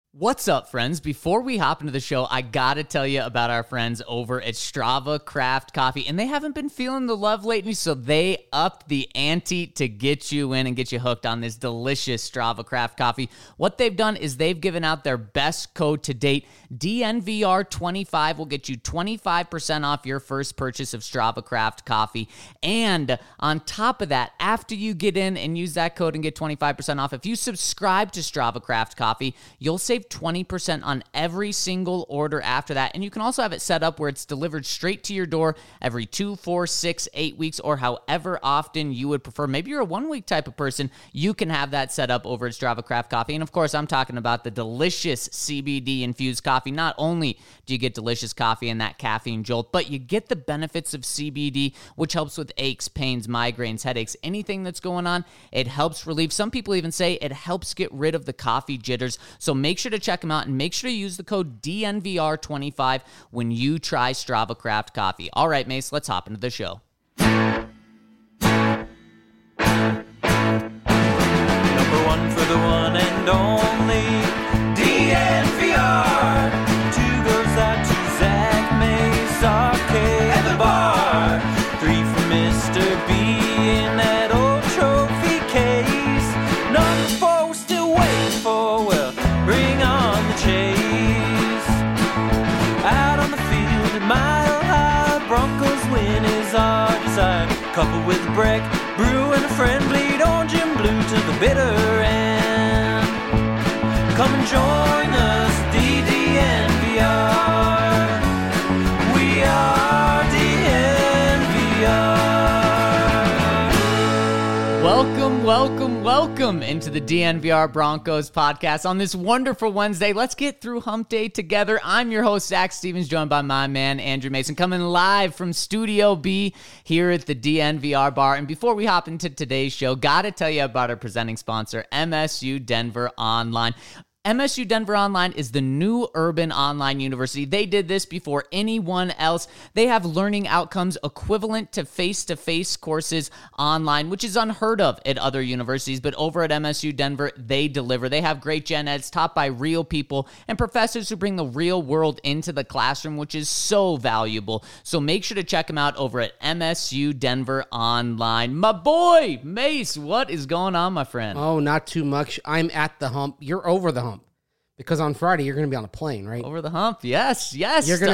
What's up, friends? Before we hop into the show, I gotta tell you about our friends over at Strava Craft Coffee, and they haven't been feeling the love lately, so they upped the ante to get you in and get you hooked on this delicious Strava Craft Coffee. What they've done is they've given out their best code to date. DNVR25 will get you 25% off your first purchase of Strava Craft Coffee, and on top of that, after you get in and use that code and get 25% off, if you subscribe to Strava Craft Coffee, you'll save 20% on every single order after that. And you can also have it set up where it's delivered straight to your door every 2, 4, 6, 8 weeks, or however often you would prefer. Maybe you're a 1-week type of person. You can have that set up over at Strava Craft Coffee. And of course, I'm talking about the delicious CBD infused coffee. Not only do you get delicious coffee and that caffeine jolt, but you get the benefits of CBD, which helps with aches, pains, migraines, headaches, anything that's going on. It helps relieve. Some people even say it helps get rid of the coffee jitters. So make sure to check them out and make sure to use the code DNVR25 when you try Strava Craft Coffee. All right, Mace, let's hop into the show. Number one for the one and only DNVR. Two goes out to Zach Mace, Arcade, and the bar. 3 for Mr. B in that old trophy case. Number 4 we're still waiting for, well, bring on the chase. Out on the field at Mile High, Broncos win is our desire. Coupled with Breck, Brew and a friend, bleed orange and blue to the bitter end. Come and join us, DNVR. We are DNVR. Welcome into the DNVR Broncos podcast on this wonderful Wednesday. Let's get through hump day together. I'm your host, Zach Stevens, joined by my man, Andrew Mason, coming live from Studio B here at the DNVR bar. And before we hop into today's show, gotta tell you about our presenting sponsor, MSU Denver Online. MSU Denver Online is the new urban online university. They did this before anyone else. They have learning outcomes equivalent to face-to-face courses online, which is unheard of at other universities. But over at MSU Denver, they deliver. They have great gen eds taught by real people and professors who bring the real world into the classroom, which is so valuable. So make sure to check them out over at MSU Denver Online. My boy, Mace, what is going on, my friend? Oh, not too much. I'm at the hump. You're over the hump. Because on Friday, you're going to be on a plane, right? Over the hump, yes. You're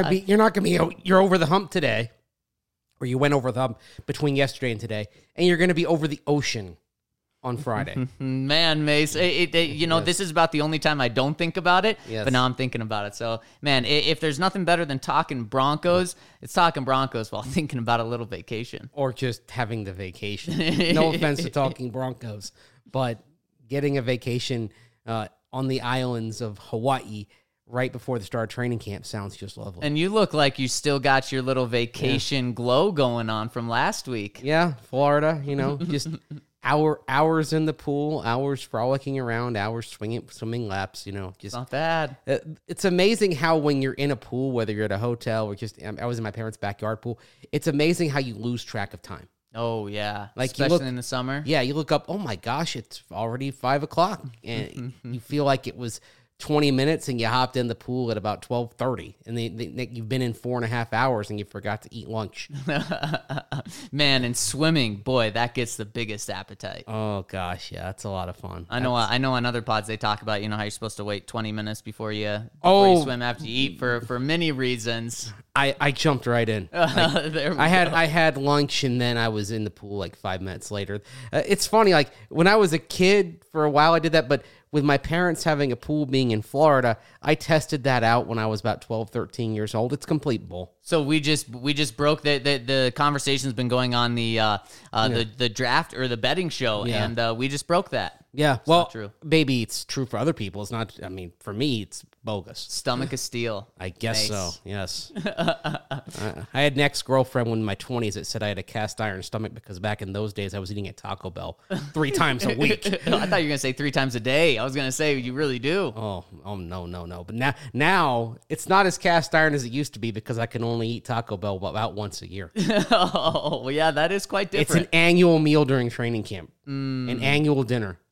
over the hump today, or you went over the hump between yesterday and today, and you're going to be over the ocean on Friday. Man, Mace, This is about the only time I don't think about it, but now I'm thinking about it. So, man, if there's nothing better than talking Broncos, it's talking Broncos while thinking about a little vacation. Or just having the vacation. No offense to talking Broncos, but getting a vacation on the islands of Hawaii right before the start of training camp sounds just lovely. And you look like you still got your little vacation glow going on from last week. Yeah, Florida, just hours in the pool, hours frolicking around, hours swimming laps, just not bad. It's amazing how when you're in a pool, whether you're at a hotel or just, I was in my parents' backyard pool, it's amazing how you lose track of time. Oh, yeah. Like especially in the summer. Yeah, you look up, oh my gosh, it's already 5 o'clock. And you feel like it was 20 minutes and you hopped in the pool at about 12:30. And you've been in 4.5 hours and you forgot to eat lunch. Man, and swimming, boy, that gets the biggest appetite. Oh gosh, yeah, that's a lot of fun. I know on other pods they talk about, how you're supposed to wait 20 minutes before you swim after you eat for many reasons. I jumped right in. I had lunch and then I was in the pool like 5 minutes later. It's funny, like when I was a kid, for a while I did that, but with my parents having a pool being in Florida, I tested that out when I was about 12, 13 years old. It's complete bull. So we just broke the conversation's been going on the draft or the betting show, and we just broke that. Yeah, it's not true. Maybe it's true for other people. It's not. I mean, for me, it's bogus. Stomach of steel. I guess so. Yes. I had an ex-girlfriend in my 20s that said I had a cast iron stomach because back in those days I was eating at Taco Bell 3 times a week. I thought you were gonna say 3 times a day. I was gonna say you really do. Oh no. But now it's not as cast iron as it used to be because I can only eat Taco Bell about once a year. Oh well, yeah, that is quite different. It's an annual meal during training camp, an annual dinner.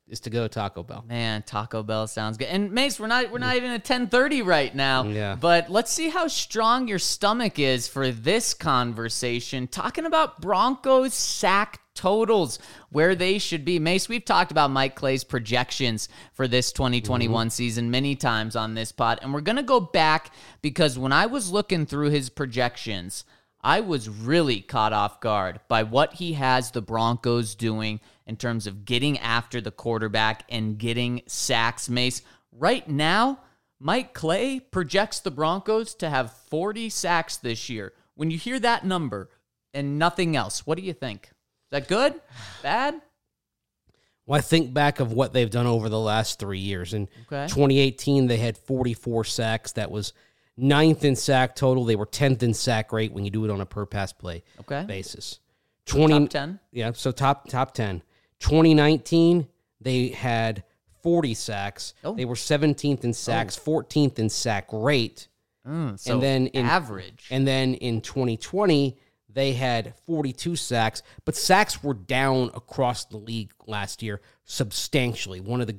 to go Taco Bell. Man, Taco Bell sounds good. And Mace, we're not even at 10:30 right now. Yeah. But let's see how strong your stomach is for this conversation. Talking about Broncos sack totals, where they should be. Mace, we've talked about Mike Clay's projections for this 2021 season many times on this pod, and we're going to go back because when I was looking through his projections, I was really caught off guard by what he has the Broncos doing in terms of getting after the quarterback and getting sacks. Mace, right now, Mike Clay projects the Broncos to have 40 sacks this year. When you hear that number and nothing else, what do you think? Is that good? Bad? Well, I think back of what they've done over the last 3 years. In 2018, they had 44 sacks. That was 9th in sack total. They were 10th in sack rate when you do it on a per pass play basis. Top 10? Yeah, so top 10. 2019, they had 40 sacks. Oh. They were 17th in sacks, 14th in sack rate. So and then average. And then in 2020, they had 42 sacks, but sacks were down across the league last year substantially.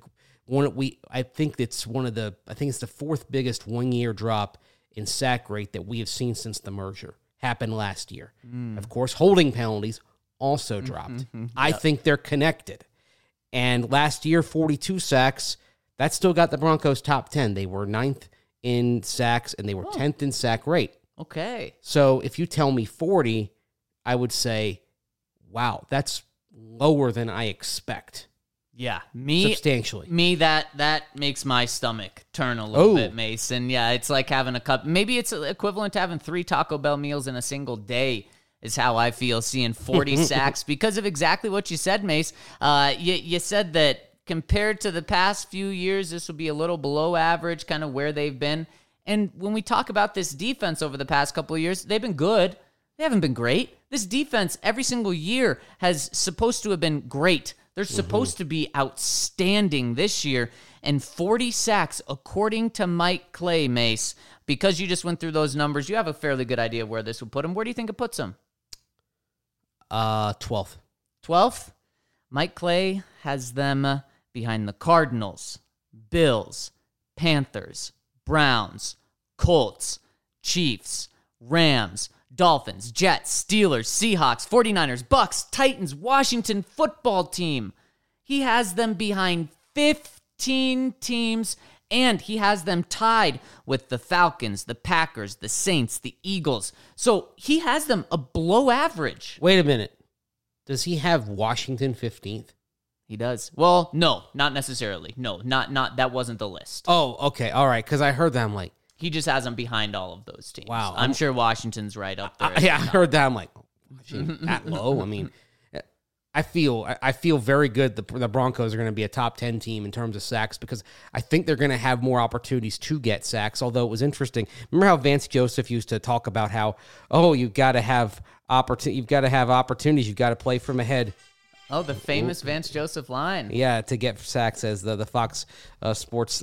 I think it's the fourth biggest 1 year drop in sack rate that we have seen since the merger happened last year. Of course, holding penalties also dropped. I think they're connected. And last year, 42 sacks, that still got the Broncos top 10. They were 9th in sacks and they were 10th in sack rate. Okay. So if you tell me 40, I would say, wow, that's lower than I expect. Yeah, substantially. That makes my stomach turn a little bit, Mason. Yeah, it's like having a cup. Maybe it's equivalent to having 3 Taco Bell meals in a single day is how I feel seeing 40 sacks because of exactly what you said, Mace. You said that compared to the past few years, this will be a little below average, kind of where they've been. And when we talk about this defense over the past couple of years, they've been good. They haven't been great. This defense every single year has supposed to have been great. They're supposed to be outstanding this year. And 40 sacks, according to Mike Clay, Mace, because you just went through those numbers, you have a fairly good idea of where this would put him. Where do you think it puts him? 12th. 12th? Mike Clay has them behind the Cardinals, Bills, Panthers, Browns, Colts, Chiefs, Rams, Dolphins, Jets, Steelers, Seahawks, 49ers, Bucks, Titans, Washington football team. He has them behind 15 teams, and he has them tied with the Falcons, the Packers, the Saints, the Eagles. So he has them a below average. Wait a minute. Does he have Washington 15th? He does. Well, no, not necessarily. No, not that wasn't the list. Oh, okay. All right, because I heard that. I'm like, he just has them behind all of those teams. Wow. I'm sure Washington's right up there. I heard that. I'm like, that low? I mean, I feel very good the Broncos are going to be a top 10 team in terms of sacks because I think they're going to have more opportunities to get sacks, although it was interesting. Remember how Vance Joseph used to talk about how, you've got to have opportunities, you've got to play from ahead. Oh, the famous Vance Joseph line. Yeah, to get sacks as the Fox Sports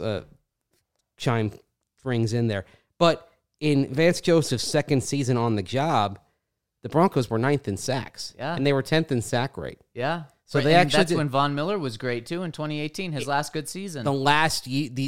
chime rings in there. But in Vance Joseph's second season on the job, the Broncos were 9th in sacks. Yeah. And they were 10th in sack rate. Yeah. So that's when Von Miller was great too in 2018, his last good season. The last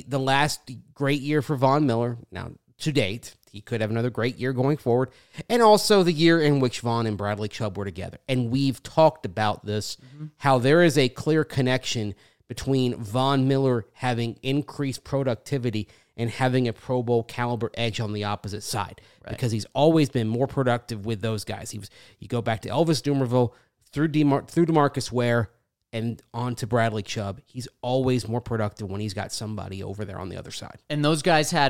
great year for Von Miller. Now, to date, he could have another great year going forward. And also the year in which Von and Bradley Chubb were together. And we've talked about this, how there is a clear connection between Von Miller having increased productivity and having a Pro Bowl caliber edge on the opposite side, because he's always been more productive with those guys. You go back to Elvis Dumervil, through DeMarcus Ware, and on to Bradley Chubb. He's always more productive when he's got somebody over there on the other side. And those guys had,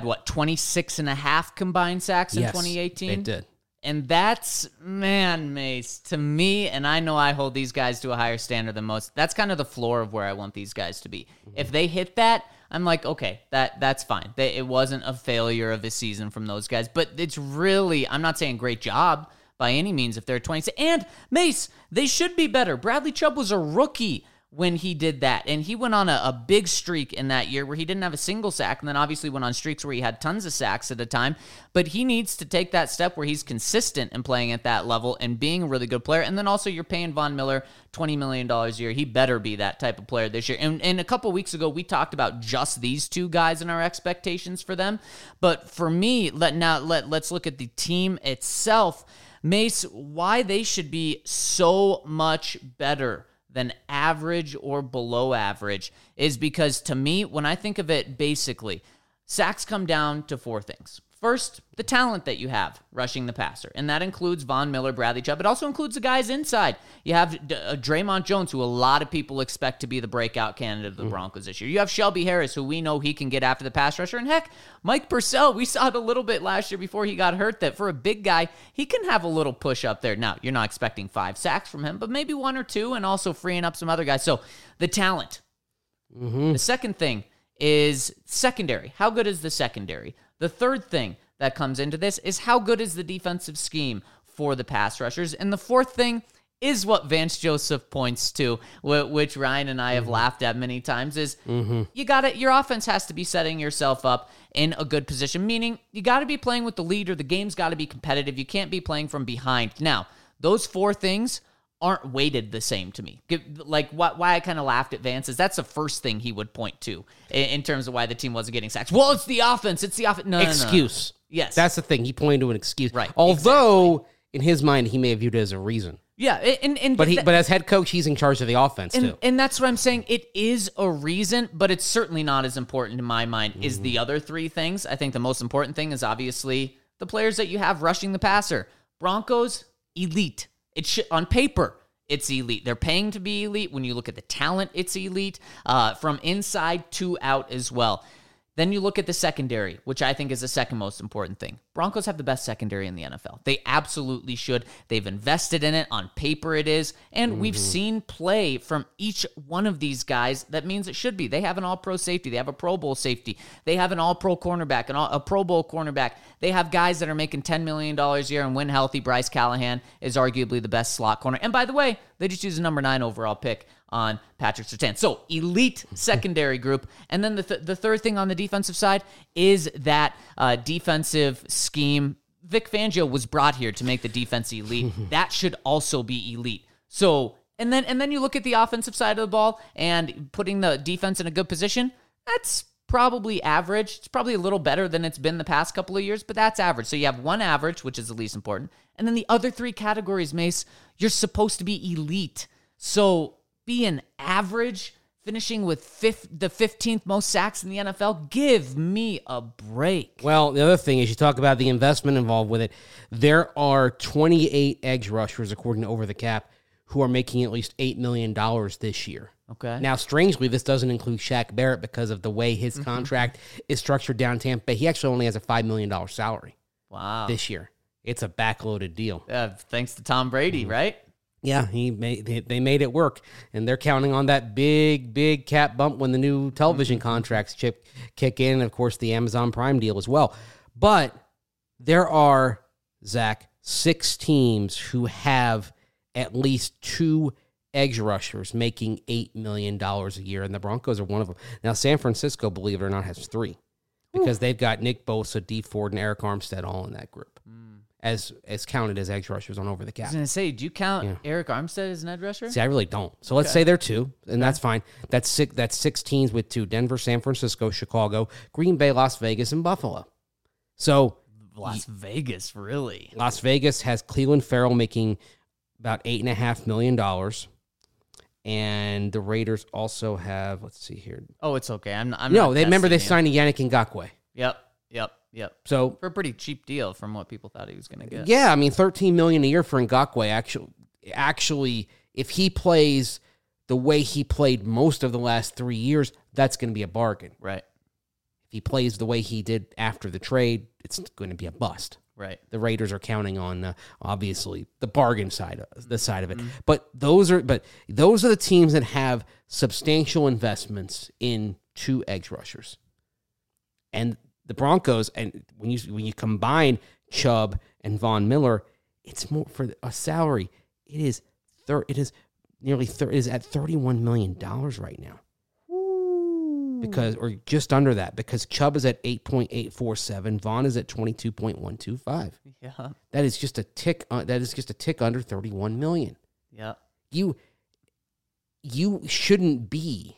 26.5 combined sacks in 2018? They did. And that's, Mace, to me, and I know I hold these guys to a higher standard than most, that's kind of the floor of where I want these guys to be. If they hit that, I'm like, okay, that's fine. It wasn't a failure of a season from those guys. But it's really, I'm not saying great job by any means if they're 26. And, Mace, they should be better. Bradley Chubb was a rookie when he did that. And he went on a big streak in that year where he didn't have a single sack, and then obviously went on streaks where he had tons of sacks at a time. But he needs to take that step where he's consistent in playing at that level and being a really good player. And then also you're paying Von Miller $20 million a year. He better be that type of player this year. And a couple weeks ago, we talked about just these two guys and our expectations for them. But for me, let's look at the team itself. Mace, why they should be so much better than average or below average is because, to me, when I think of it basically, sacks come down to four things. First, the talent that you have rushing the passer, and that includes Von Miller, Bradley Chubb. It also includes the guys inside. You have Draymond Jones, who a lot of people expect to be the breakout candidate of the Broncos this year. You have Shelby Harris, who we know he can get after the pass rusher. And heck, Mike Purcell, we saw it a little bit last year before he got hurt, that for a big guy, he can have a little push up there. Now, you're not expecting 5 sacks from him, but maybe 1 or 2, and also freeing up some other guys. So the talent. The second thing is secondary. How good is the secondary? The third thing that comes into this is how good is the defensive scheme for the pass rushers? And the fourth thing is what Vance Joseph points to, which Ryan and I have laughed at many times, is your offense has to be setting yourself up in a good position, meaning you got to be playing with the leader. The game's got to be competitive. You can't be playing from behind. Now, those 4 things aren't weighted the same to me. Like, why I kind of laughed at Vance is that's the first thing he would point to in terms of why the team wasn't getting sacks. Well, it's the offense. It's the offense. No. Excuse. Yes. That's the thing. He pointed to an excuse. Right. Although, in his mind, he may have viewed it as a reason. Yeah. But as head coach, he's in charge of the offense, too. And that's what I'm saying. It is a reason, but it's certainly not as important in my mind as the other 3 things. I think the most important thing is obviously the players that you have rushing the passer. Broncos, elite. On paper, it's elite. They're paying to be elite. When you look at the talent, it's elite. From inside to out as well. Then you look at the secondary, which I think is the second most important thing. Broncos have the best secondary in the NFL. They absolutely should. They've invested in it. On paper it is. And we've seen play from each one of these guys that means it should be. They have an all-pro safety. They have a Pro Bowl safety. They have an all-pro cornerback, a Pro Bowl cornerback. They have guys that are making $10 million a year, and when healthy, Bryce Callahan is arguably the best slot corner. And by the way, they just used a number 9 overall pick on Patrick Surtain. So, elite secondary group. And then the third thing on the defensive side is that defensive scheme. Vic Fangio was brought here to make the defense elite. That should also be elite. So, and then you look at the offensive side of the ball and putting the defense in a good position. That's probably average. It's probably a little better than it's been the past couple of years, but that's average. So you have one average, which is the least important. And then the other 3 categories, Mace, you're supposed to be elite. So being average, finishing with the 15th most sacks in the NFL, give me a break. Well, the other thing is you talk about the investment involved with it. There are 28 edge rushers, according to Over the Cap, who are making at least $8 million this year. Okay. Now, strangely, this doesn't include Shaq Barrett because of the way his contract is structured down Tampa Bay. He actually only has a $5 million salary. Wow. This year. It's a backloaded deal. Thanks to Tom Brady, right? Yeah, they made it work, and they're counting on that big cap bump when the new television contracts kick in, and of course the Amazon Prime deal as well. But there are, Zach, 6 teams who have at least 2 edge rushers making $8 million a year, and the Broncos are one of them. Now, San Francisco, believe it or not, has 3 because they've got Nick Bosa, Dee Ford, and Eric Armstead all in that group. As counted as edge rushers on Over the Cap. I was going to say, do you count Eric Armstead as an edge rusher? See, I really don't. So let's say they're 2, and that's fine. That's 6 teams with 2. Denver, San Francisco, Chicago, Green Bay, Las Vegas, and Buffalo. So Las Vegas, really? Las Vegas has Cleveland Farrell making about $8.5 million. And the Raiders also have, let's see here. Oh, it's okay. I'm no, they signed Yannick Ngakoue. Yep. So for a pretty cheap deal from what people thought he was going to get. Yeah, I mean, $13 million a year for Ngakoue. Actually, if he plays the way he played most of the last 3 years, that's going to be a bargain. Right. If he plays the way he did after the trade, it's going to be a bust. Right. The Raiders are counting on obviously the bargain side of it. But those are the teams that have substantial investments in 2 edge rushers. And the Broncos, and when you combine Chubb and Von Miller, it's more for a salary. It is is at $31 million right now. Or just under that, because Chubb is at 8.847, Vaughn is at 22.125. Yeah. That is just a tick under 31 million. Yeah. You shouldn't be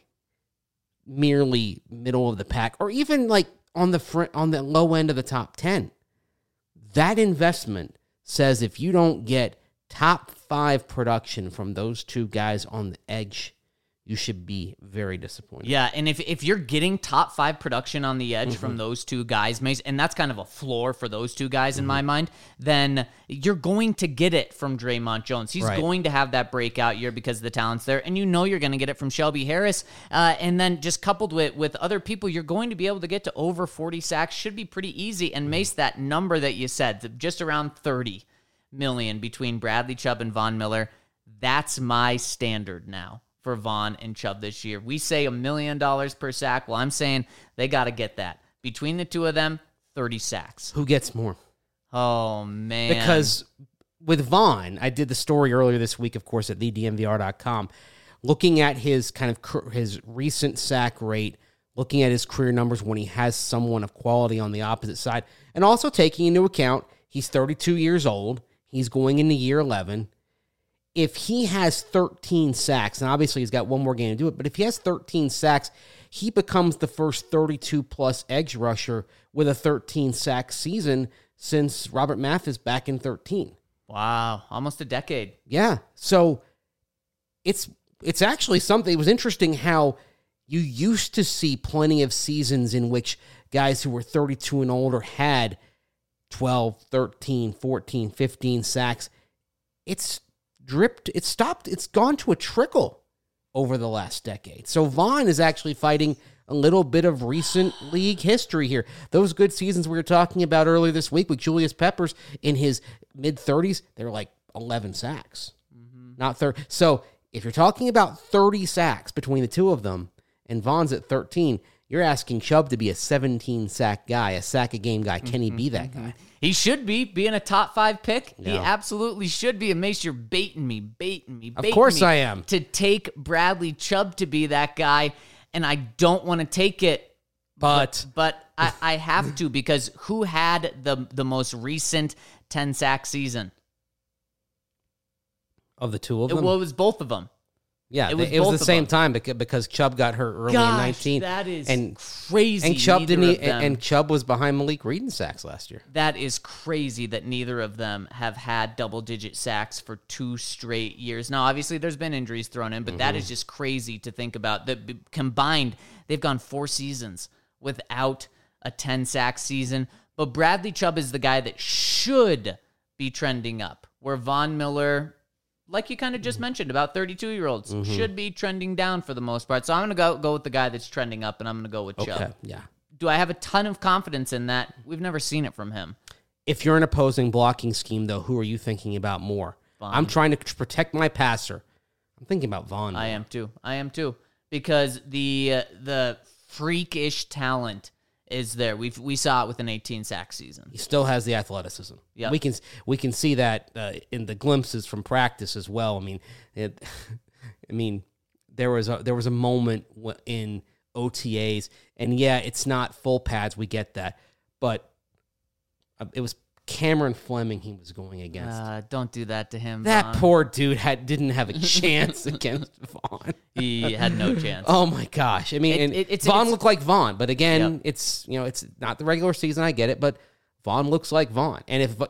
merely middle of the pack or even like on the low end of the top 10. That investment says if you don't get top 5 production from those two guys on the edge, you should be very disappointed. Yeah, and if you're getting top 5 production on the edge from those two guys, Mace, and that's kind of a floor for those two guys in my mind, then you're going to get it from Draymond Jones. He's going to have that breakout year because the talent's there, and you know you're going to get it from Shelby Harris. And then just coupled with other people, you're going to be able to get to over 40 sacks. Should be pretty easy. And Mace, that number that you said, just around 30 million between Bradley Chubb and Von Miller, that's my standard now for Vaughn and Chubb this year. We say $1 million per sack. Well, I'm saying they got to get that. Between the two of them, 30 sacks. Who gets more? Oh, man. Because with Vaughn, I did the story earlier this week, of course, at thedmvr.com, looking at his his recent sack rate, looking at his career numbers when he has someone of quality on the opposite side, and also taking into account he's 32 years old. He's going into year 11. If he has 13 sacks, and obviously he's got one more game to do it, but if he has 13 sacks, he becomes the first 32-plus edge rusher with a 13-sack season since Robert Mathis back in 13. Wow, almost a decade. Yeah, so it's actually something. It was interesting how you used to see plenty of seasons in which guys who were 32 and older had 12, 13, 14, 15 sacks. It's gone to a trickle over the last decade. So Vaughn is actually fighting a little bit of recent league history here. Those good seasons we were talking about earlier this week with Julius Peppers in his mid-30s, they were like 11 sacks, not 30. So if you're talking about 30 sacks between the two of them and Vaughn's at 13, you're asking Chubb to be a 17-sack guy, a sack-a-game guy. Can he be that guy? He should be, being a top 5 pick. Yeah. He absolutely should be. And Mace, you're baiting me. Of course I am. To take Bradley Chubb to be that guy, and I don't want to take it. But I have to, because who had the most recent 10-sack season? Of the two of them? Well, it was both of them. Yeah, it was the same time because Chubb got hurt early in 19. That is crazy. And Chubb and Chubb was behind Malik Reed in sacks last year. That is crazy that neither of them have had double-digit sacks for 2 straight years. Now, obviously, there's been injuries thrown in, but that is just crazy to think about. That combined, they've gone 4 seasons without a 10-sack season. But Bradley Chubb is the guy that should be trending up, where Von Miller, like you kind of just mentioned, about 32-year-olds, should be trending down for the most part. So I'm going to go with the guy that's trending up, and I'm going to go with Chubb. Okay, yeah. Do I have a ton of confidence in that? We've never seen it from him. If you're an opposing blocking scheme, though, who are you thinking about more? Vaughn. I'm trying to protect my passer. I'm thinking about Vaughn. I am too. Because the freakish talent is there. We saw it with an 18-sack season. He still has the athleticism. Yeah, we can see that in the glimpses from practice as well. I mean, there was a moment in OTAs, and yeah, it's not full pads. We get that, but it was Cameron Fleming he was going against. Don't do that to him. That Vaughn. poor dude didn't have a chance against Vaughn. He had no chance. Oh my gosh! I mean, Vaughn looked like Vaughn, but again, Yep. it's not the regular season. I get it, but Vaughn looks like Vaughn,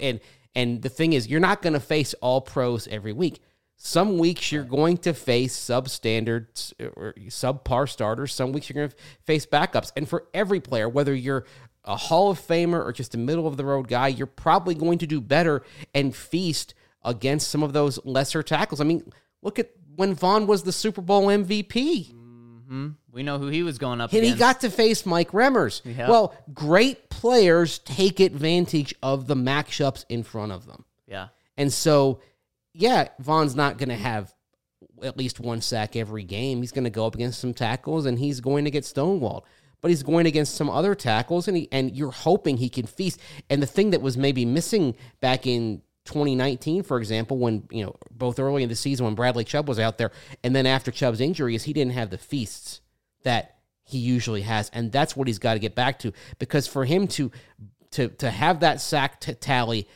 and the thing is, you're not going to face all pros every week. Some weeks you're going to face substandard or subpar starters. Some weeks you're going to face backups, and for every player, whether you're a Hall of Famer or just a middle-of-the-road guy, you're probably going to do better and feast against some of those lesser tackles. I mean, look at when Vaughn was the Super Bowl MVP. Mm-hmm. We know who he was going up and against. He got to face Mike Remmers. Yep. Well, great players take advantage of the matchups in front of them. Yeah. And so, yeah, Vaughn's not going to have at least one sack every game. He's going to go up against some tackles, and he's going to get stonewalled. But he's going against some other tackles, and you're hoping he can feast. And the thing that was maybe missing back in 2019, for example, when, both early in the season when Bradley Chubb was out there, and then after Chubb's injury, is he didn't have the feasts that he usually has. And that's what he's got to get back to, because for him to have that sack tally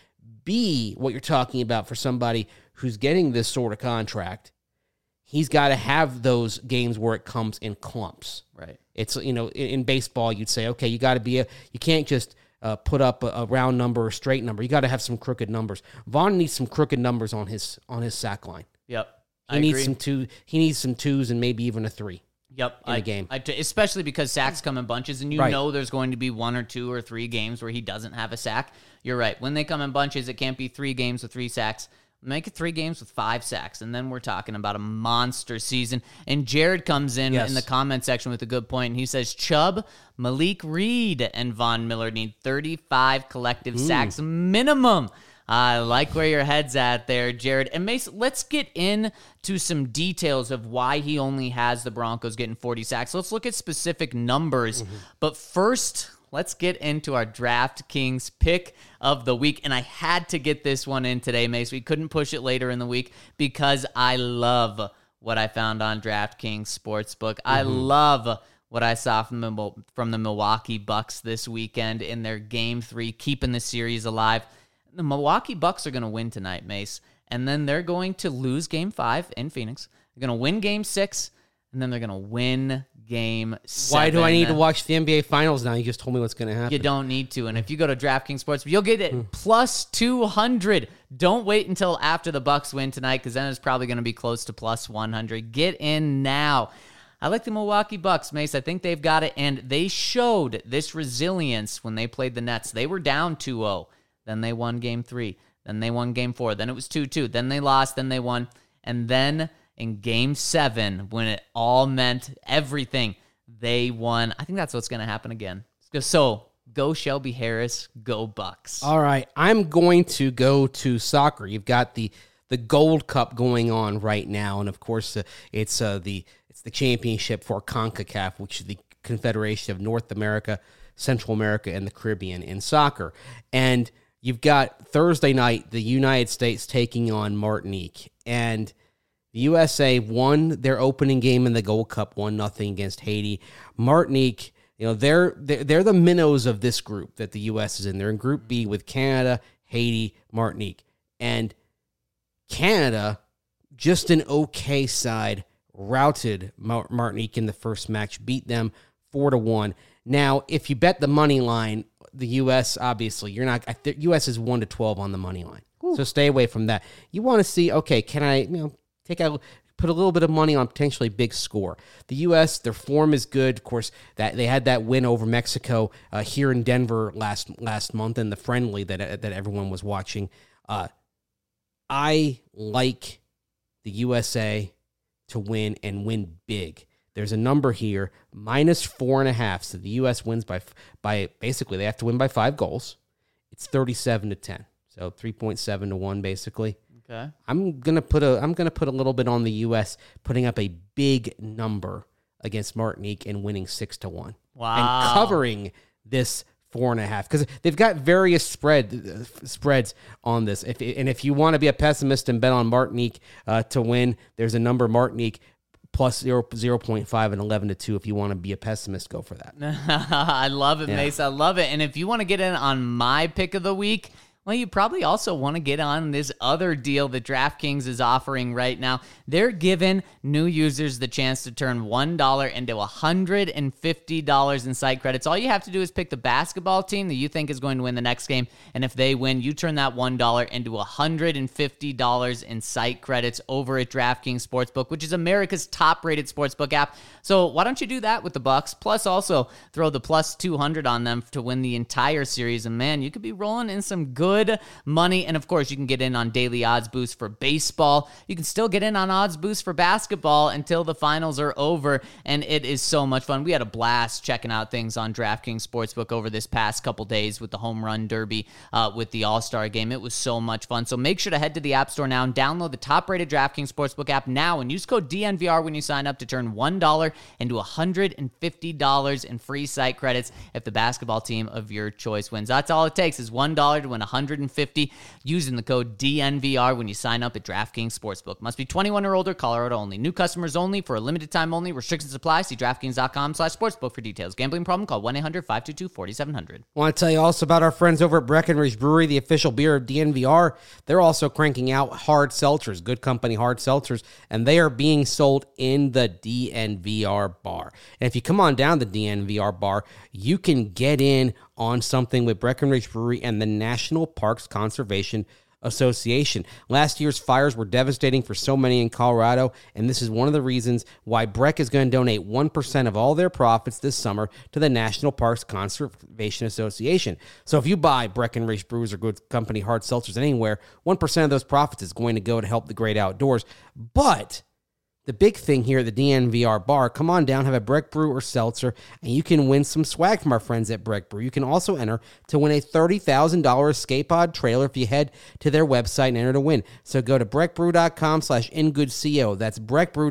be what you're talking about for somebody who's getting this sort of contract, he's got to have those games where it comes in clumps. Right. It's, in baseball, you'd say, okay, you got to you can't just put up a round number or straight number. You got to have some crooked numbers. Vaughn needs some crooked numbers on his sack line. Yep. He needs some twos and maybe even a 3. Yep, in a game. Especially because sacks come in bunches, and right. know there's going to be 1 or 2 or 3 games where he doesn't have a sack. You're right. When they come in bunches, it can't be 3 games with 3 sacks. Make it 3 games with 5 sacks, and then we're talking about a monster season. And Jared comes in the comment section with a good point, and he says, Chubb, Malik Reed, and Von Miller need 35 collective sacks minimum. I like where your head's at there, Jared. And Mace, let's get into some details of why he only has the Broncos getting 40 sacks. Let's look at specific numbers. But first, let's get into our DraftKings pick of the week. And I had to get this one in today, Mace. We couldn't push it later in the week because I love what I found on DraftKings Sportsbook. I love what I saw from the Milwaukee Bucks this weekend in their Game 3, keeping the series alive. The Milwaukee Bucks are going to win tonight, Mace, and then they're going to lose Game 5 in Phoenix. They're going to win Game 6, and then they're going to win Game 7. Why do I need to watch the NBA Finals now? You just told me what's going to happen. You don't need to, and if you go to DraftKings Sports, you'll get it plus 200. Don't wait until after the Bucks win tonight, because then it's probably going to be close to plus 100. Get in now. I like the Milwaukee Bucks, Mace. I think they've got it, and they showed this resilience when they played the Nets. They were down 2-0. Then they won Game 3. Then they won Game 4. Then it was 2-2. Then they lost. Then they won. And then in Game 7, when it all meant everything, they won. I think that's what's going to happen again. So go Shelby Harris. Go Bucks. All right. I'm going to go to soccer. You've got the Gold Cup going on right now. And, of course, it's the championship for CONCACAF, which is the Confederation of North America, Central America, and the Caribbean in soccer. And you've got Thursday night, the United States taking on Martinique. And the USA won their opening game in the Gold Cup, 1-0 against Haiti. Martinique, they're the minnows of this group that the U.S. is in. They're in Group B with Canada, Haiti, Martinique. And Canada, just an okay side, routed Martinique in the first match, beat them 4-1. Now, if you bet the money line, the U.S., obviously, you're not. The U.S. is 1-12 on the money line. Ooh. So stay away from that. You want to see, okay, can I, put a little bit of money on potentially big score. The U.S., their form is good. Of course, that they had that win over Mexico here in Denver last month in the friendly that everyone was watching. I like the USA to win and win big. There's a number here, -4.5. So the U.S. wins by basically they have to win by 5 goals. It's 37-10. So 3.7 to 1 basically. Okay. I'm gonna put a little bit on the U.S. putting up a big number against Martinique and winning 6-1. Wow. And covering this 4.5 because they've got various spreads on this. If you want to be a pessimist and bet on Martinique to win, there's a number Martinique plus 0.5 and 11-2. If you want to be a pessimist, go for that. I love it, Mace. I love it. And if you want to get in on my pick of the week, well, you probably also want to get on this other deal that DraftKings is offering right now. They're giving new users the chance to turn $1 into $150 in site credits. All you have to do is pick the basketball team that you think is going to win the next game, and if they win, you turn that $1 into $150 in site credits over at DraftKings Sportsbook, which is America's top-rated sportsbook app. So why don't you do that with the Bucks? Plus, also throw the plus 200 on them to win the entire series, and man, you could be rolling in some good money. And of course, you can get in on daily odds boost for baseball. You can still get in on odds boost for basketball until the finals are over, and it is so much fun. We had a blast checking out things on DraftKings Sportsbook over this past couple days with the home run derby, with the All-Star game. It was so much fun. So make sure to head to the App Store now and download the top-rated DraftKings Sportsbook app now and use code DNVR when you sign up to turn $1 into $150 in free site credits if the basketball team of your choice wins. That's all it takes is $1 to win $150 $150 using the code DNVR when you sign up at DraftKings Sportsbook. Must be 21 or older, Colorado only. New customers only for a limited time only. Restrictions apply. See DraftKings.com/sportsbook for details. Gambling problem? Call 1-800-522-4700. Want to tell you also about our friends over at Breckenridge Brewery, the official beer of DNVR. They're also cranking out hard seltzers, good company hard seltzers, and they are being sold in the DNVR bar. And if you come on down the DNVR bar, you can get in on something with Breckenridge Brewery and the National Parks Conservation Association. Last year's fires were devastating for so many in Colorado, and this is one of the reasons why Breck is going to donate 1% of all their profits this summer to the National Parks Conservation Association. So if you buy Breckenridge Brews or Good Company hard seltzers anywhere, 1% of those profits is going to go to help the great outdoors. But the big thing here at the DNVR bar, come on down, have a Breck Brew or seltzer, and you can win some swag from our friends at Breck Brew. You can also enter to win a $30,000 Escape Pod trailer if you head to their website and enter to win. So go to breckbrew.com/ingoodco. That's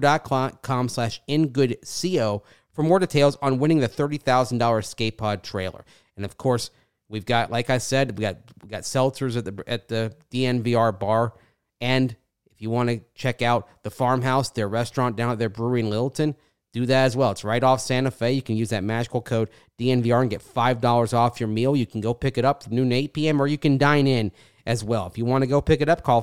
breckbrew.com/ingoodco for more details on winning the $30,000 Escape Pod trailer. And of course, we've got, like I said, we got seltzers at the DNVR bar, and if you want to check out the Farmhouse, their restaurant down at their brewery in Littleton, do that as well. It's right off Santa Fe. You can use that magical code DNVR and get $5 off your meal. You can go pick it up from noon to 8 p.m., or you can dine in as well. If you want to go pick it up, call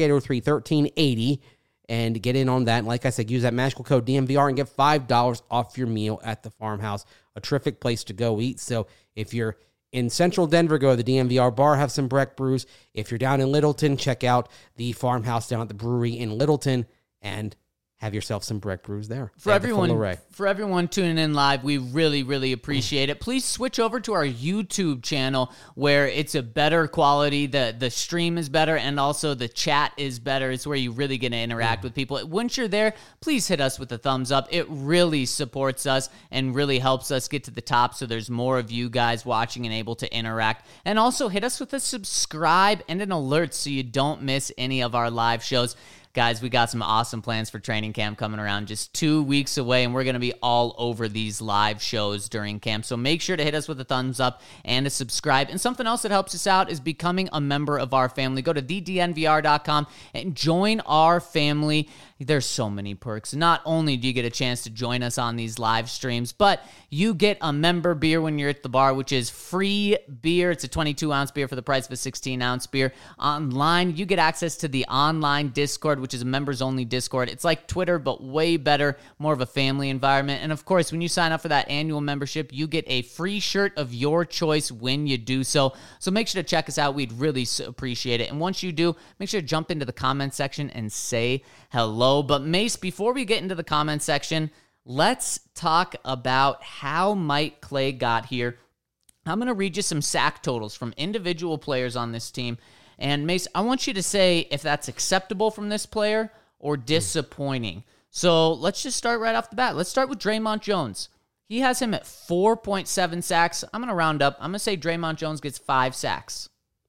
303-803-1380 and get in on that. And like I said, use that magical code DNVR and get $5 off your meal at the Farmhouse. A terrific place to go eat. So if you're in central Denver, go to the DNVR bar, have some Breck brews. If you're down in Littleton, check out the Farmhouse down at the brewery in Littleton and have yourself some Breck brews there. For everyone tuning in live, we really, really appreciate it. Please switch over to our YouTube channel where it's a better quality. The stream is better, and also the chat is better. It's where you really get to interact with people. Once you're there, please hit us with a thumbs up. It really supports us and really helps us get to the top, so there's more of you guys watching and able to interact. And also hit us with a subscribe and an alert so you don't miss any of our live shows. Guys, we got some awesome plans for training camp coming around just 2 weeks away, and we're going to be all over these live shows during camp. So make sure to hit us with a thumbs up and a subscribe. And something else that helps us out is becoming a member of our family. Go to thednvr.com and join our family. There's so many perks. Not only do you get a chance to join us on these live streams, but you get a member beer when you're at the bar, which is free beer. It's a 22-ounce beer for the price of a 16-ounce beer. Online, you get access to the online Discord, which is a members-only Discord. It's like Twitter, but way better, more of a family environment. And of course, when you sign up for that annual membership, you get a free shirt of your choice when you do so. So make sure to check us out. We'd really appreciate it. And once you do, make sure to jump into the comment section and say hello. But Mace, before we get into the comment section, let's talk about how Mike Clay got here. I'm going to read you some sack totals from individual players on this team. And Mace, I want you to say if that's acceptable from this player or disappointing. So let's just start right off the bat. Let's start with Draymond Jones. He has him at 4.7 sacks. I'm going to round up. I'm going to say Draymond Jones gets 5 sacks.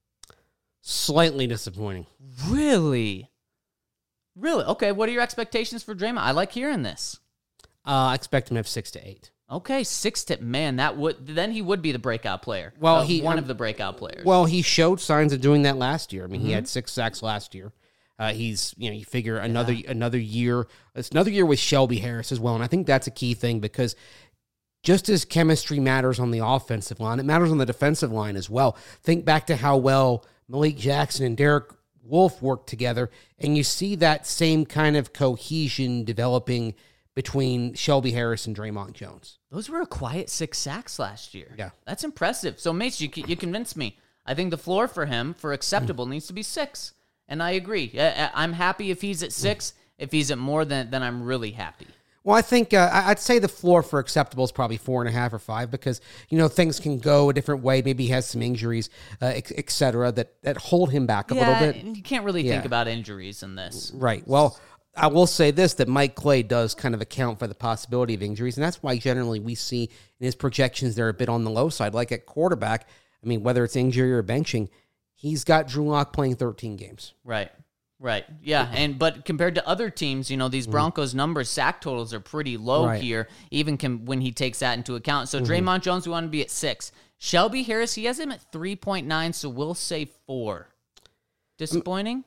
Slightly disappointing. Really? Really? Okay, what are your expectations for Draymond? I like hearing this. I expect him to have 6 to 8. Okay, 6 to, man, then he would be the breakout player. Well, one of the breakout players. Well, he showed signs of doing that last year. I mean, he had 6 sacks last year. He's, you figure another year. It's another year with Shelby Harris as well, and I think that's a key thing because just as chemistry matters on the offensive line, it matters on the defensive line as well. Think back to how well Malik Jackson and Derek Wolfe work together, and you see that same kind of cohesion developing between Shelby Harris and Draymond Jones. Those were a quiet 6 sacks last year. Yeah. That's impressive. So, Mace, you convinced me. I think the floor for him, for acceptable, needs to be 6. And I agree. I'm happy if he's at 6. If he's at more, then I'm really happy. Well, I think I'd say the floor for acceptable is probably 4.5 or 5 because, things can go a different way. Maybe he has some injuries, et cetera, that hold him back a little bit. You can't really think about injuries in this. Right. Well, I will say this, that Mike Clay does kind of account for the possibility of injuries, and that's why generally we see in his projections they're a bit on the low side. Like at quarterback, I mean, whether it's injury or benching, he's got Drew Lock playing 13 games. Right. Yeah, but compared to other teams, these Broncos numbers, sack totals are pretty low here, even when he takes that into account. So Draymond Jones, we want to be at 6. Shelby Harris, he has him at 3.9, so we'll say 4. Disappointing?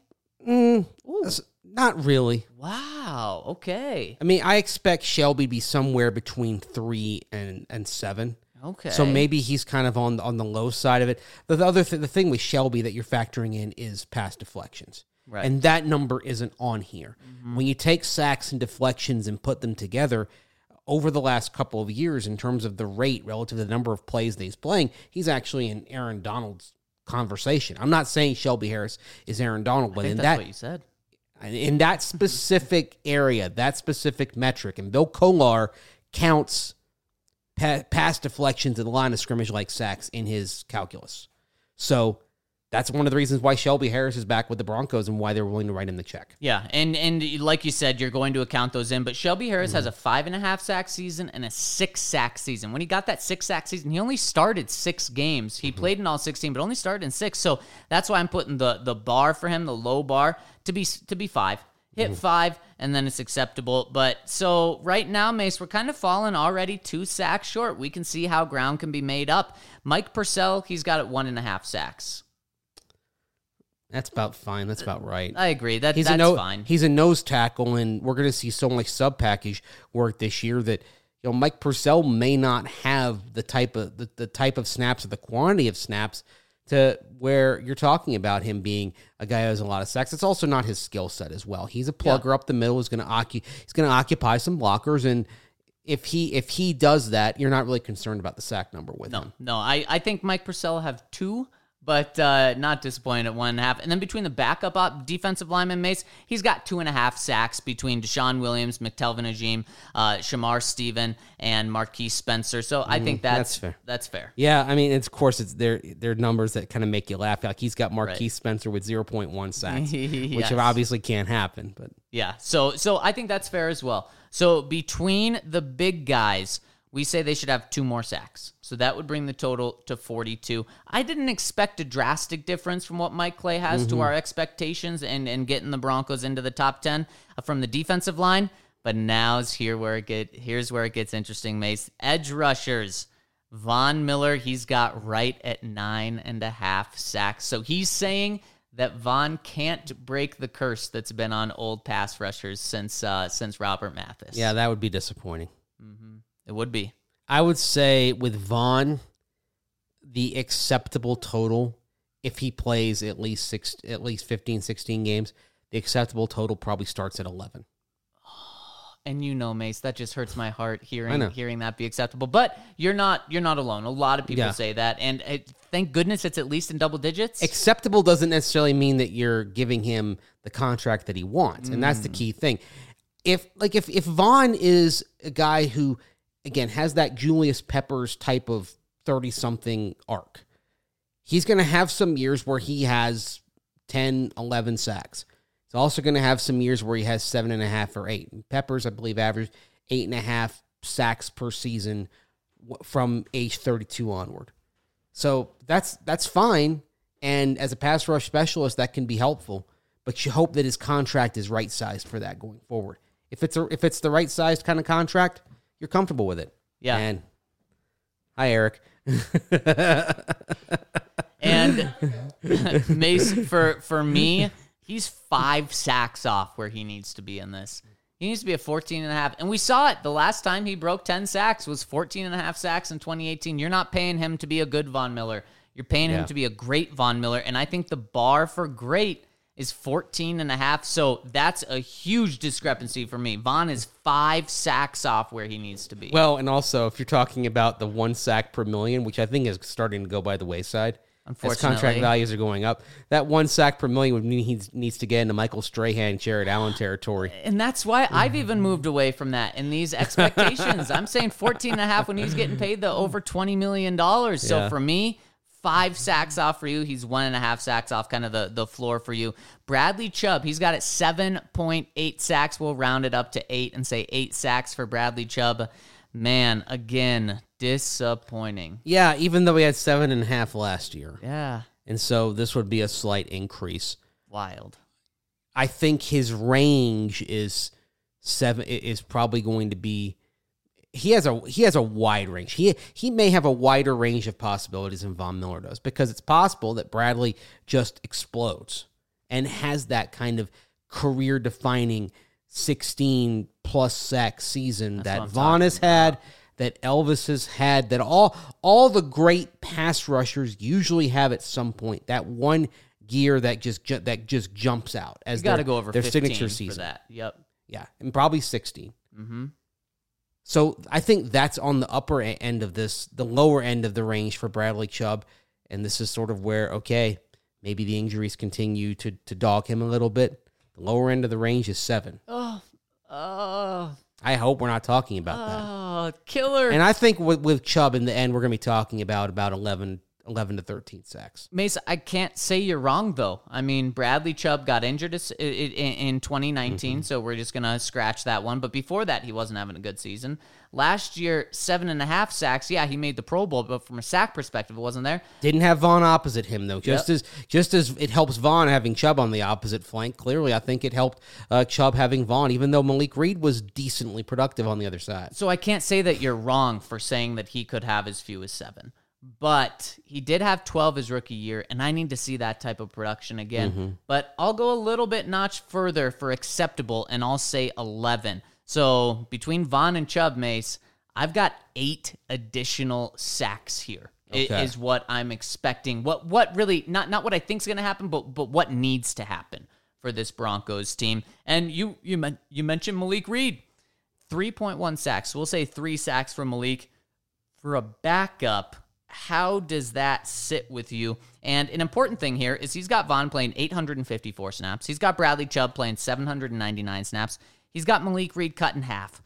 Not really. Wow. Okay. I mean, I expect Shelby to be somewhere between 3 and 7. Okay. So maybe he's kind of on the low side of it. The thing with Shelby that you're factoring in is pass deflections. Right. And that number isn't on here. Mm-hmm. When you take sacks and deflections and put them together, over the last couple of years, in terms of the rate relative to the number of plays that he's playing, he's actually in Aaron Donald's conversation. I'm not saying Shelby Harris is Aaron Donald, but that's what you said. In that specific area, that specific metric, and Bill Kolar counts pass deflections in the line of scrimmage like sacks in his calculus. So that's one of the reasons why Shelby Harris is back with the Broncos and why they're willing to write him the check. Yeah, and like you said, you're going to account those in, but Shelby Harris has a 5.5 sack season and a 6 sack season. When he got that 6 sack season, he only started 6 games. He played in all 16, but only started in 6. So that's why I'm putting the bar for him, the low bar, to be 5. Hit 5, and then it's acceptable. But so right now, Mace, we're kind of falling already 2 sacks short. We can see how ground can be made up. Mike Purcell, he's got at 1.5 sacks. That's about fine. That's about right. I agree. That's fine. He's a nose tackle, and we're going to see so much sub-package work this year that Mike Purcell may not have the type of snaps or the quantity of snaps to where you're talking about him being a guy who has a lot of sacks. It's also not his skill set as well. He's a plugger up the middle. He's going to occupy some blockers, and if he does that, you're not really concerned about the sack number with him. No, I think Mike Purcell will have 2. But not disappointed at 1.5. And then between the backup defensive lineman, Mace, he's got 2.5 sacks between Deshaun Williams, McTelvin Ajim, Shamar Stephen, and Marquise Spencer. So I think that's fair. That's fair. Yeah, I mean, of course, they're numbers that kind of make you laugh. Like he's got Marquise Spencer with 0.1 sacks, which obviously can't happen. But yeah, so I think that's fair as well. So between the big guys, we say they should have 2 more sacks. So that would bring the total to 42. I didn't expect a drastic difference from what Mike Clay has to our expectations and getting the Broncos into the top 10 from the defensive line. But here's where it gets interesting, Mace. Edge rushers. Von Miller, he's got right at 9.5 sacks. So he's saying that Von can't break the curse that's been on old pass rushers since Robert Mathis. Yeah, that would be disappointing. It would be. I would say with Vaughn, the acceptable total, if he plays at least 15, 16 games, the acceptable total probably starts at 11. And Mace, that just hurts my heart hearing that be acceptable. But you're not alone. A lot of people say that, and thank goodness it's at least in double digits. Acceptable doesn't necessarily mean that you're giving him the contract that he wants, and that's the key thing. If Vaughn is a guy who, again, has that Julius Peppers type of 30-something arc, he's going to have some years where he has 10, 11 sacks. He's also going to have some years where he has 7.5 or 8. Peppers, I believe, averaged 8.5 sacks per season from age 32 onward. So that's fine, and as a pass rush specialist, that can be helpful, but you hope that his contract is right-sized for that going forward. If it's the right-sized kind of contract, you're comfortable with it. Yeah. And hi, Eric. And Mace, for me, he's 5 sacks off where he needs to be in this. He needs to be at 14.5. And we saw it. The last time he broke 10 sacks was 14.5 sacks in 2018. You're not paying him to be a good Von Miller. You're paying him to be a great Von Miller. And I think the bar for great is 14.5. So that's a huge discrepancy for me. Von is 5 sacks off where he needs to be. Well, and also, if you're talking about the 1 sack per million, which I think is starting to go by the wayside, as contract values are going up, that 1 sack per million would mean he needs to get into Michael Strahan, Jared Allen territory. And that's why I've even moved away from that in these expectations. I'm saying 14.5 when he's getting paid the over $20 million. So for me, 5 sacks off for you. He's 1.5 sacks off, kind of the floor for you. Bradley Chubb, he's got it 7.8 sacks. We'll round it up to 8 and say 8 sacks for Bradley Chubb. Man, again, disappointing. Yeah, even though he had 7.5 last year. Yeah. And so this would be a slight increase. Wild. I think his range is probably going to be he has a wide range. He may have a wider range of possibilities than Von Miller does, because it's possible that Bradley just explodes and has that kind of career-defining 16-plus sack season that Von has had, that Elvis has had, that all the great pass rushers usually have at some point. That one gear that just jumps out as got to go over their 15 signature season. for that. Yep. Yeah, and probably 16. Mm-hmm. So I think that's on the upper end of this, the lower end of the range for Bradley Chubb, and this is sort of where, okay, maybe the injuries continue to dog him a little bit. The lower end of the range is 7. I hope we're not talking about that. Oh, killer. And I think with Chubb in the end, we're going to be talking about 11 to 13 sacks. Mace, I can't say you're wrong, though. I mean, Bradley Chubb got injured in 2019, so we're just going to scratch that one. But before that, he wasn't having a good season. Last year, 7.5 sacks. Yeah, he made the Pro Bowl, but from a sack perspective, it wasn't there. Didn't have Von opposite him, though. Just as it helps Von having Chubb on the opposite flank, clearly I think it helped Chubb having Von, even though Malik Reed was decently productive on the other side. So I can't say that you're wrong for saying that he could have as few as 7. But he did have 12 his rookie year, and I need to see that type of production again. Mm-hmm. But I'll go a little bit notch further for acceptable, and I'll say 11. So between Von and Chubb, Mace, I've got 8 additional sacks here. Okay. Is what I'm expecting. What really, not what I think is going to happen, but what needs to happen for this Broncos team. And you mentioned Malik Reed, 3.1 sacks. So we'll say 3 sacks for Malik. For a backup, how does that sit with you? And an important thing here is he's got Von playing 854 snaps. He's got Bradley Chubb playing 799 snaps. He's got Malik Reed cut in half,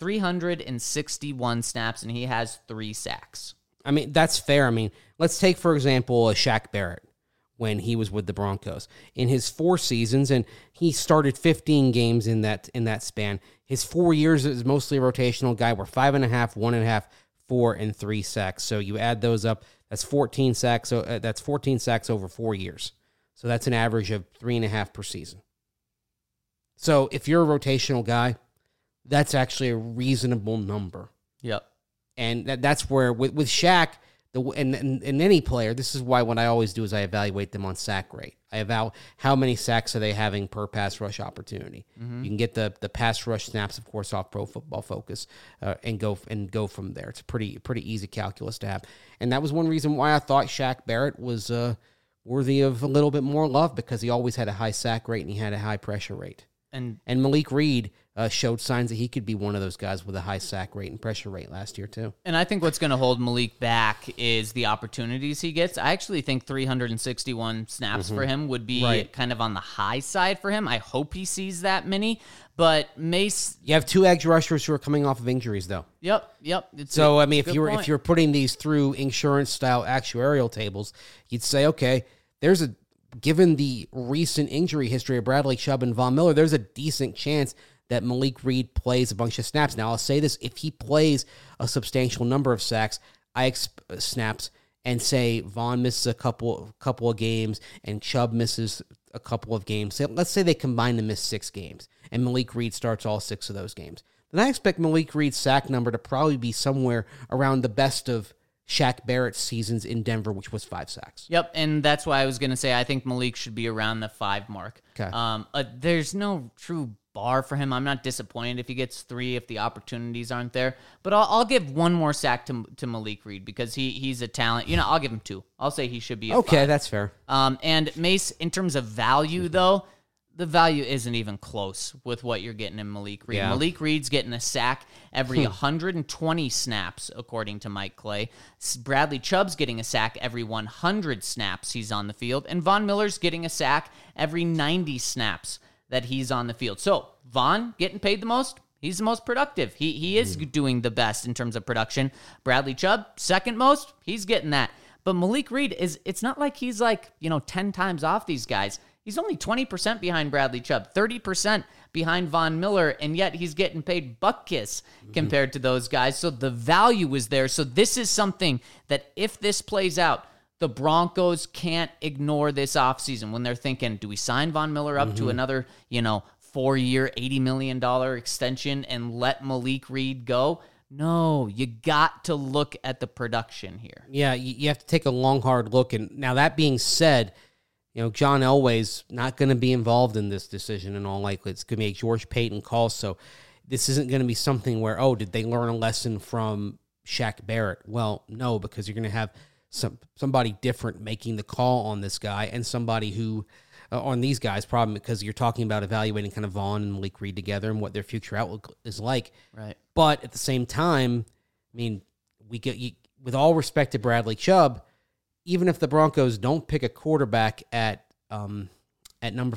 361 snaps, and he has 3 sacks. I mean, that's fair. I mean, let's take, for example, Shaq Barrett when he was with the Broncos. In his 4 seasons, and he started 15 games in that span, his 4 years as mostly a rotational guy were 5.5, 1.5, 4, and 3 sacks. So you add those up, that's 14 sacks. So that's 14 sacks over 4 years. So that's an average of 3.5 per season. So if you're a rotational guy, that's actually a reasonable number. Yep. And that's where with Shaq and any player, this is why what I always do is I evaluate them on sack rate. I evaluate how many sacks are they having per pass rush opportunity. Mm-hmm. You can get the pass rush snaps, of course, off Pro Football Focus, and go from there. It's a pretty easy calculus to have. And that was one reason why I thought Shaq Barrett was worthy of a little bit more love, because he always had a high sack rate and he had a high pressure rate. And Malik Reed showed signs that he could be one of those guys with a high sack rate and pressure rate last year too. And I think what's going to hold Malik back is the opportunities he gets. I actually think 361 snaps for him would be kind of on the high side for him. I hope he sees that many. But Mace, you have 2 edge rushers who are coming off of injuries, though. Yep. So I mean, if you're putting these through insurance style actuarial tables, you'd say, okay, given the recent injury history of Bradley Chubb and Von Miller, there's a decent chance that Malik Reed plays a bunch of snaps. Now, I'll say this: if he plays a substantial number of snaps, and say Von misses a couple of games and Chubb misses a couple of games, let's say they combine to miss 6 games, and Malik Reed starts all 6 of those games, then I expect Malik Reed's sack number to probably be somewhere around the best of Shaq Barrett's seasons in Denver, which was 5 sacks. Yep, and that's why I was going to say I think Malik should be around the 5 mark. Okay. There's no true bar for him. I'm not disappointed if he gets 3 if the opportunities aren't there. But I'll give one more sack to Malik Reed because he's a talent. I'll give him 2. I'll say he should be a 5. That's fair. And Mace, in terms of value, though, the value isn't even close with what you're getting in Malik Reed. Yeah. Malik Reed's getting a sack every 120 snaps, according to Mike Clay. Bradley Chubb's getting a sack every 100 snaps he's on the field. And Von Miller's getting a sack every 90 snaps that he's on the field. So, Von getting paid the most. He's the most productive. He is doing the best in terms of production. Bradley Chubb, second most. He's getting that. But Malik Reed, it's not like he's 10 times off these guys. He's only 20% behind Bradley Chubb, 30% behind Von Miller, and yet he's getting paid buck kiss compared to those guys. So the value is there. So this is something that if this plays out, the Broncos can't ignore this offseason when they're thinking, do we sign Von Miller up to another, 4-year, $80 million extension and let Malik Reed go? No, you got to look at the production here. Yeah, you have to take a long, hard look. And now that being said, John Elway's not going to be involved in this decision in all likelihood. It's going to be a George Payton call. So this isn't going to be something where, did they learn a lesson from Shaq Barrett? Well, no, because you're going to have somebody different making the call on this guy, and somebody who on these guys, probably because you're talking about evaluating kind of Vaughn and Malik Reed together and what their future outlook is like. Right. But at the same time, I mean, with all respect to Bradley Chubb, even if the Broncos don't pick a quarterback at number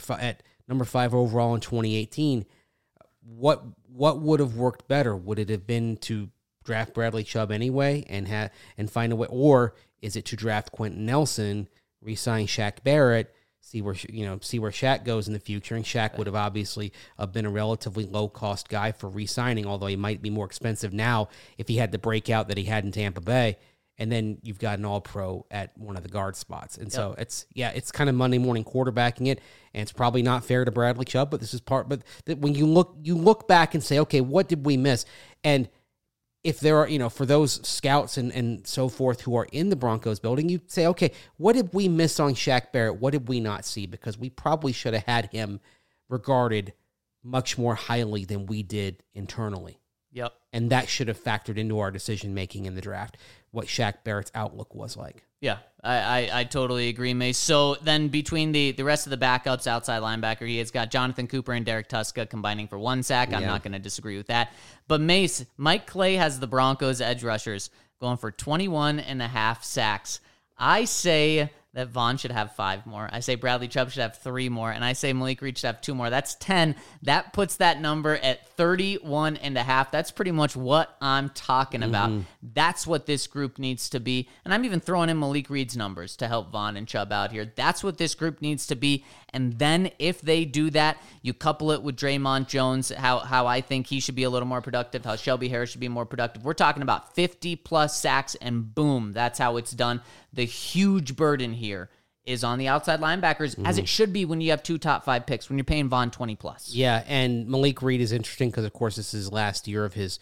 5 overall in 2018, what would have worked better? Would it have been to draft Bradley Chubb anyway and find a way, or is it to draft Quentin Nelson, re-sign Shaq Barrett, see where Shaq goes in the future? And Shaq would have obviously been a relatively low-cost guy for re-signing, although he might be more expensive now if he had the breakout that he had in Tampa Bay. And then you've got an all-pro at one of the guard spots. And so it's kind of Monday morning quarterbacking it, and it's probably not fair to Bradley Chubb, but this is part. But when you look back and say, okay, what did we miss? And if there are, for those scouts and so forth who are in the Broncos building, you say, okay, what did we miss on Shaq Barrett? What did we not see? Because we probably should have had him regarded much more highly than we did internally. Yep. And that should have factored into our decision-making in the draft, what Shaq Barrett's outlook was like. Yeah, I totally agree, Mace. So then between the rest of the backups, outside linebacker, he has got Jonathan Cooper and Derek Tuska combining for 1 sack. I'm not going to disagree with that. But Mace, Mike Clay has the Broncos edge rushers going for 21.5 sacks. I say that Vaughn should have 5 more. I say Bradley Chubb should have 3 more. And I say Malik Reed should have 2 more. That's 10. That puts that number at 31.5. That's pretty much what I'm talking about. That's what this group needs to be. And I'm even throwing in Malik Reed's numbers to help Vaughn and Chubb out here. That's what this group needs to be. And then if they do that, you couple it with Draymond Jones, how I think he should be a little more productive, how Shelby Harris should be more productive. We're talking about 50-plus sacks, and boom, that's how it's done. The huge burden here is on the outside linebackers, as it should be when you have 2 top 5 picks, when you're paying Vaughn 20-plus. Yeah, and Malik Reed is interesting because, of course, this is his last year of his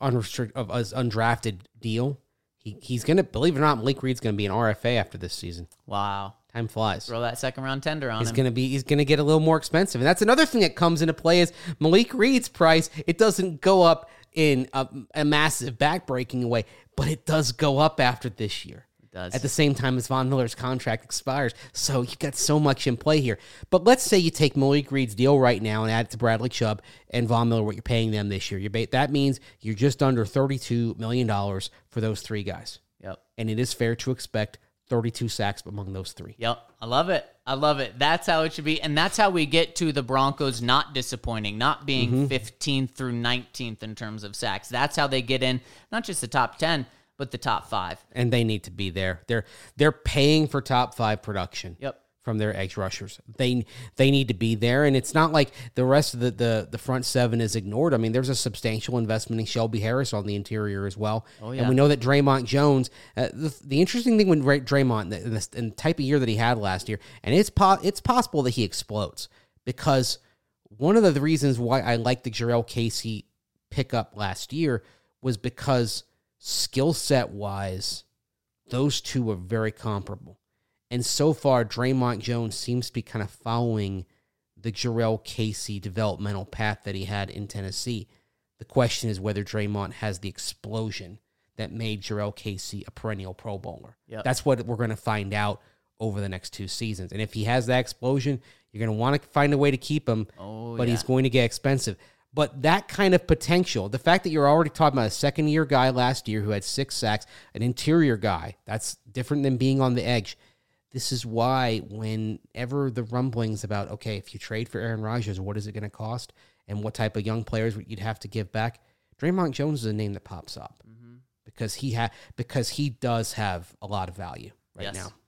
undrafted deal. He's going to, believe it or not, Malik Reed's going to be an RFA after this season. Wow. Time flies. Throw that second-round tender on him. He's going to get a little more expensive. And that's another thing that comes into play is Malik Reed's price. It doesn't go up in a massive back-breaking way, but it does go up after this year. At the same time as Von Miller's contract expires. So you've got so much in play here. But let's say you take Malik Reed's deal right now and add it to Bradley Chubb and Von Miller, what you're paying them this year. That means you're just under $32 million for those 3 guys. Yep. And it is fair to expect 32 sacks among those 3. Yep. I love it. That's how it should be. And that's how we get to the Broncos not disappointing, not being 15th through 19th in terms of sacks. That's how they get in, not just the top 10, but the top 5. And they need to be there. They're paying for top 5 production. Yep. From their edge rushers. They need to be there, and it's not like the rest of the front 7 is ignored. I mean, there's a substantial investment in Shelby Harris on the interior as well. Oh, yeah. And we know that Draymond Jones, the interesting thing with Draymond, and the type of year that he had last year, and it's possible that he explodes, because one of the reasons why I liked the Jurrell Casey pickup last year was because skill set wise, those two were very comparable. And so far, Draymond Jones seems to be kind of following the Jurrell Casey developmental path that he had in Tennessee. The question is whether Draymond has the explosion that made Jurrell Casey a perennial Pro Bowler. Yep. That's what we're going to find out over the next 2 seasons. And if he has that explosion, you're going to want to find a way to keep him, but he's going to get expensive. But that kind of potential, the fact that you're already talking about a second-year guy last year who had 6 sacks, an interior guy, that's different than being on the edge. This is why whenever the rumblings about, okay, if you trade for Aaron Rodgers, what is it going to cost and what type of young players you'd have to give back, Draymond Jones is a name that pops up because he does have a lot of value right now.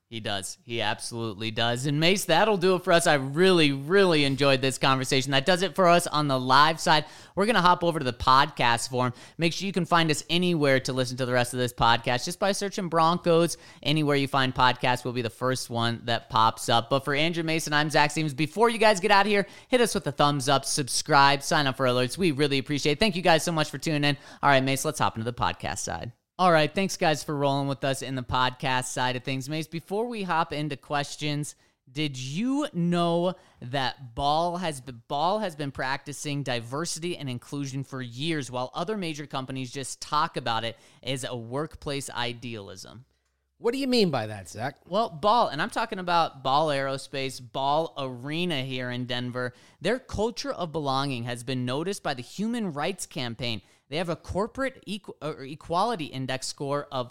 He does. He absolutely does. And Mace, that'll do it for us. I really, really enjoyed this conversation. That does it for us on the live side. We're going to hop over to the podcast forum. Make sure you can find us anywhere to listen to the rest of this podcast just by searching Broncos. Anywhere you find podcasts will be the first one that pops up. But for Andrew Mason, I'm Zach Stevens. Before you guys get out of here, hit us with a thumbs up, subscribe, sign up for alerts. We really appreciate it. Thank you guys so much for tuning in. All right, Mace, let's hop into the podcast side. All right, thanks, guys, for rolling with us in the podcast side of things. Mace, before we hop into questions, did you know that Ball has been practicing diversity and inclusion for years while other major companies just talk about it as a workplace idealism? What do you mean by that, Zach? Well, Ball, and I'm talking about Ball Aerospace, Ball Arena here in Denver. Their culture of belonging has been noticed by the Human Rights Campaign. They have a corporate equality index score of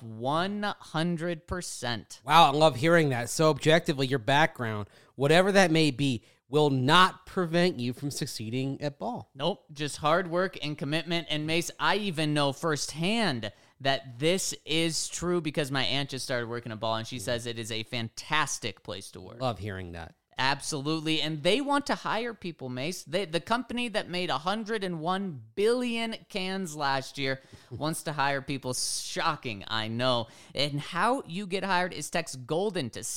100%. Wow, I love hearing that. So objectively, your background, whatever that may be, will not prevent you from succeeding at Ball. Nope, just hard work and commitment. And Mace, I even know firsthand that this is true because my aunt just started working at Ball, and she says it is a fantastic place to work. Love hearing that. Absolutely, and they want to hire people, Mace. The company that made 101 billion cans last year wants to hire people. Shocking, I know. And how you get hired is text GOLDEN to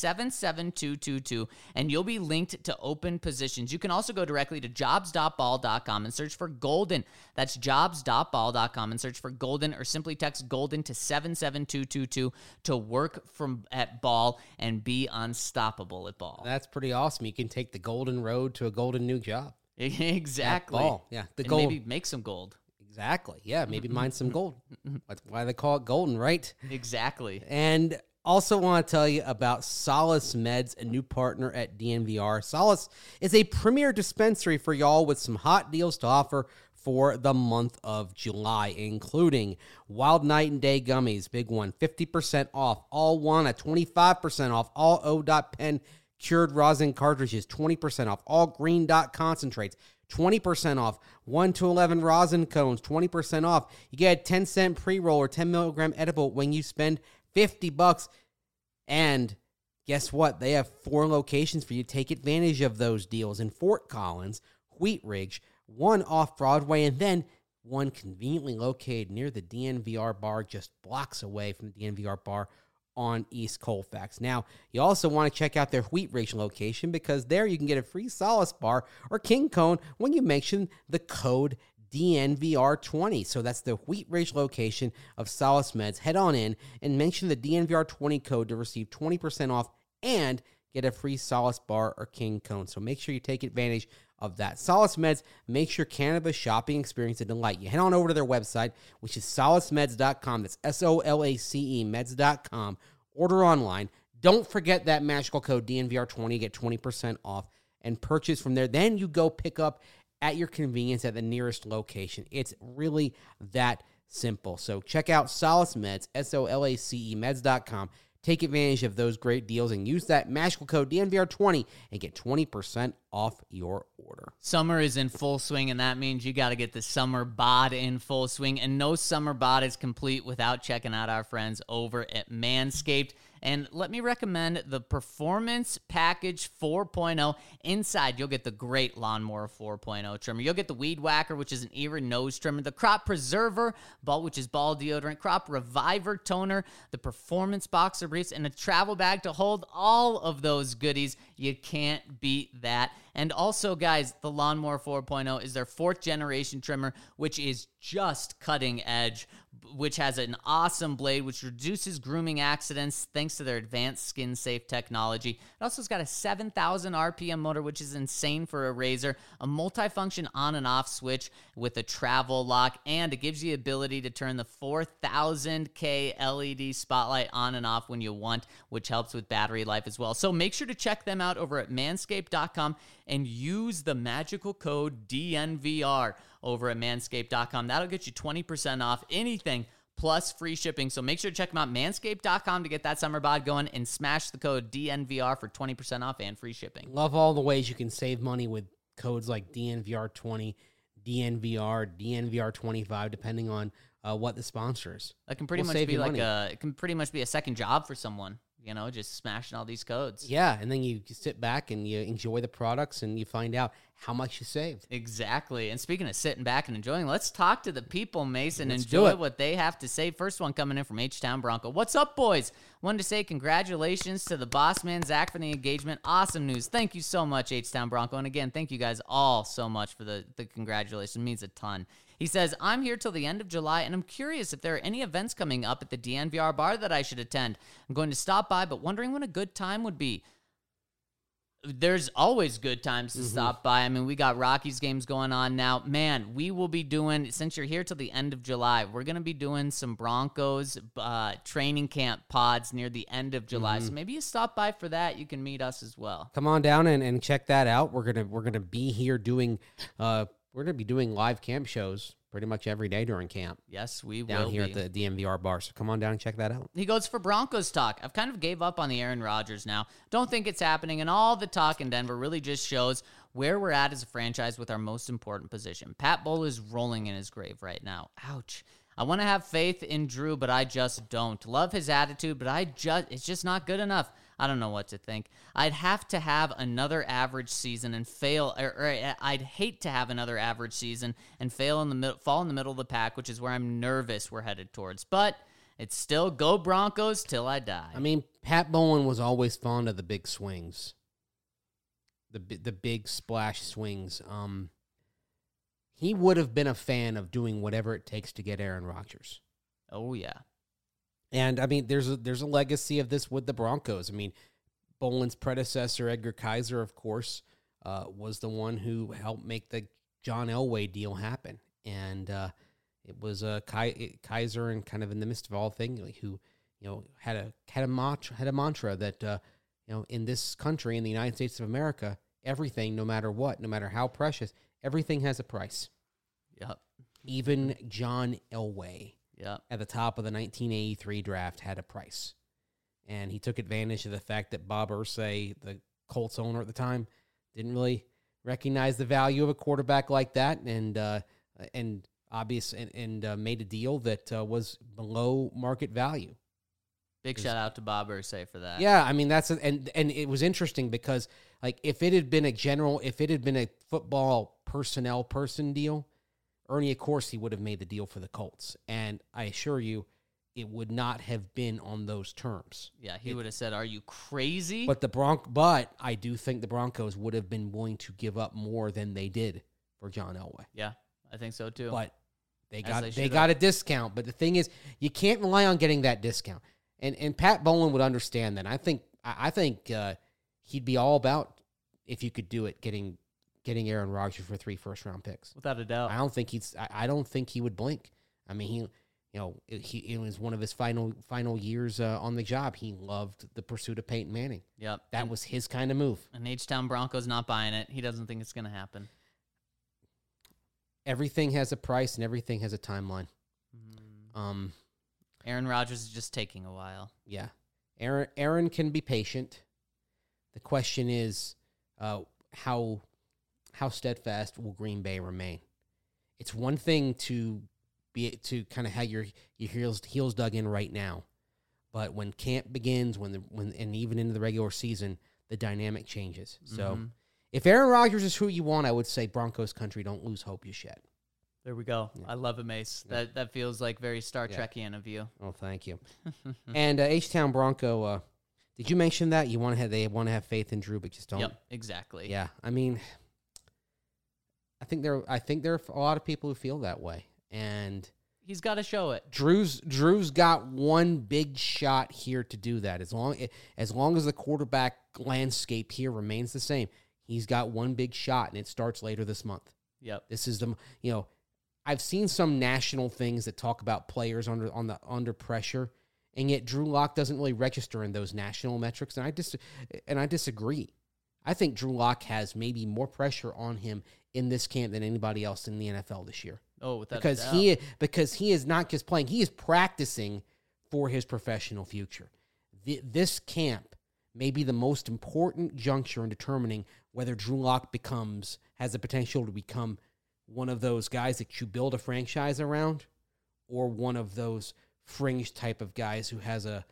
77222, and you'll be linked to open positions. You can also go directly to jobs.ball.com and search for GOLDEN. That's jobs.ball.com and search for GOLDEN, or simply text GOLDEN to 77222 to work at Ball and be unstoppable at Ball. That's pretty awesome. You can take the golden road to a golden new job. Exactly. Ball. Yeah, the and gold. Maybe make some gold. Exactly. Yeah, maybe mine some gold. That's why they call it golden, right? Exactly. And also want to tell you about Solace Meds, a new partner at DNVR. Solace is a premier dispensary for y'all with some hot deals to offer for the month of July, including Wild Night and Day Gummies, big one, 50% off. All one at 25% off. All O.Pen cured rosin cartridges, 20% off. All Green Dot concentrates, 20% off. 1 to 11 rosin cones, 20% off. You get a 10-cent pre-roll or 10 milligram edible when you spend $50. And guess what? They have 4 locations for you to take advantage of those deals in Fort Collins, Wheat Ridge, 1 off Broadway, and then 1 conveniently located near the DNVR bar, just blocks away from the DNVR bar on East Colfax. Now, you also want to check out their Wheat Ridge location because there you can get a free Solace bar or King Cone when you mention the code DNVR20. So that's the Wheat Ridge location of Solace Meds. Head on in and mention the DNVR20 code to receive 20% off and get a free Solace bar or King Cone. So make sure you take advantage of that. Solace Meds makes your cannabis shopping experience a delight. You head on over to their website, which is solacemeds.com. That's SOLACE meds.com. Order online. Don't forget that magical code DNVR20. Get 20% off and purchase from there. Then you go pick up at your convenience at the nearest location. It's really that simple. So check out Solace Meds, SOLACE meds.com. Take advantage of those great deals and use that magical code DNVR20 and get 20% off your order. Summer is in full swing, and that means you got to get the summer bod in full swing. And no summer bod is complete without checking out our friends over at Manscaped. And let me recommend the Performance Package 4.0. Inside, you'll get the great Lawnmower 4.0 trimmer. You'll get the Weed Whacker, which is an ear and nose trimmer. The Crop Preserver, which is ball deodorant. Crop Reviver toner. The Performance Boxer briefs. And a travel bag to hold all of those goodies. You can't beat that. And also, guys, the Lawnmower 4.0 is their 4th generation trimmer, which is just cutting edge, which has an awesome blade, which reduces grooming accidents thanks to their advanced skin-safe technology. It also has got a 7,000 RPM motor, which is insane for a razor, a multifunction on and off switch with a travel lock, and it gives you the ability to turn the 4,000K LED spotlight on and off when you want, which helps with battery life as well. So make sure to check them out over at manscaped.com and use the magical code DNVR over at manscaped.com. That'll get you 20% off anything plus free shipping. So make sure to check them out, manscaped.com, to get that summer bod going, and smash the code DNVR for 20% off and free shipping. Love all the ways you can save money with codes like DNVR20, DNVR, DNVR25, depending on what the sponsor is. That can pretty much be like it can pretty much be a second job for someone. just smashing all these codes. Yeah, and then you sit back and you enjoy the products and you find out how much you saved. Exactly. And speaking of sitting back and enjoying, let's talk to the people, Mason. Enjoy what they have to say. First one coming in from H-Town Bronco. What's up, boys? Wanted to say congratulations to the boss man, Zach, for the engagement. Awesome news. Thank you so much, H-Town Bronco. And again, thank you guys all so much for the congratulations. It means a ton. He says, I'm here till the end of July, and I'm curious if there are any events coming up at the DNVR bar that I should attend. I'm going to stop by, but wondering when a good time would be. There's always good times to stop by. I mean, we got Rockies games going on now. Man, we will be doing, since you're here till the end of July, we're going to be doing some Broncos training camp pods near the end of July. So maybe you stop by for that. You can meet us as well. Come on down and check that out. We're gonna be here doing we're going to be doing live camp shows pretty much every day during camp. Yes, we will down here at the DNVR bar. So come on down and check that out. He goes, for Broncos talk, I've kind of gave up on the Aaron Rodgers now. Don't think it's happening, and all the talk in Denver really just shows where we're at as a franchise with our most important position. Pat Bowl is rolling in his grave right now. Ouch. I want to have faith in Drew, but I just don't. Love his attitude, but it's just not good enough. I don't know what to think. I'd have to have another average season and fail, or I'd hate to have another average season and fall in the middle of the pack, which is where I'm nervous we're headed towards. But it's still go Broncos till I die. I mean, Pat Bowen was always fond of the big swings, the big splash swings. He would have been a fan of doing whatever it takes to get Aaron Rodgers. Oh, yeah. And, I mean, there's a legacy of this with the Broncos. I mean, Bolin's predecessor, Edgar Kaiser, of course, was the one who helped make the John Elway deal happen. And it was Kaiser, and kind of in the midst of all things, who had a mantra that in this country, in the United States of America, everything, no matter what, no matter how precious, everything has a price. Yep. Even John Elway. Yeah, at the top of the 1983 draft had a price. And he took advantage of the fact that Bob Irsay, the Colts owner at the time, didn't really recognize the value of a quarterback like that, and made a deal that was below market value. Big shout out to Bob Irsay for that. Yeah, I mean and it was interesting because if it had been a football personnel person deal, Ernie, of course, he would have made the deal for the Colts. And I assure you, it would not have been on those terms. Yeah, he would have said, "Are you crazy?" But I do think the Broncos would have been willing to give up more than they did for John Elway. Yeah, I think so too. But they got a discount. But the thing is, you can't rely on getting that discount. And Pat Bowlen would understand that. I think he'd be all about, if you could do it, getting Aaron Rodgers for 3 first-round picks. Without a doubt. I don't think he would blink. I mean, it was one of his final years on the job. He loved the pursuit of Peyton Manning. Yep. That was his kind of move. And H-Town Broncos not buying it. He doesn't think it's going to happen. Everything has a price and everything has a timeline. Aaron Rodgers is just taking a while. Yeah. Aaron can be patient. The question is, how steadfast will Green Bay remain? It's one thing to kind of have your heels dug in right now, but when camp begins, and even into the regular season, the dynamic changes. So, if Aaron Rodgers is who you want, I would say Broncos country, don't lose hope just yet. There we go. Yeah. I love it, Mace. Yeah. That feels like very Star Trekian of you. Oh, thank you. And H-Town Bronco, did you mention that they want to have faith in Drew, but just don't? Yep, exactly. Yeah, I mean, I think there are a lot of people who feel that way, and he's got to show it. Drew's got one big shot here to do that. As long as the quarterback landscape here remains the same, he's got one big shot, and it starts later this month. Yep. This is I've seen some national things that talk about players under pressure, and yet Drew Lock doesn't really register in those national metrics, and I disagree. I think Drew Lock has maybe more pressure on him in this camp than anybody else in the NFL this year. Oh, without because a doubt. because he is not just playing; he is practicing for his professional future. This camp may be the most important juncture in determining whether Drew Lock has the potential to become one of those guys that you build a franchise around, or one of those fringe type of guys who has a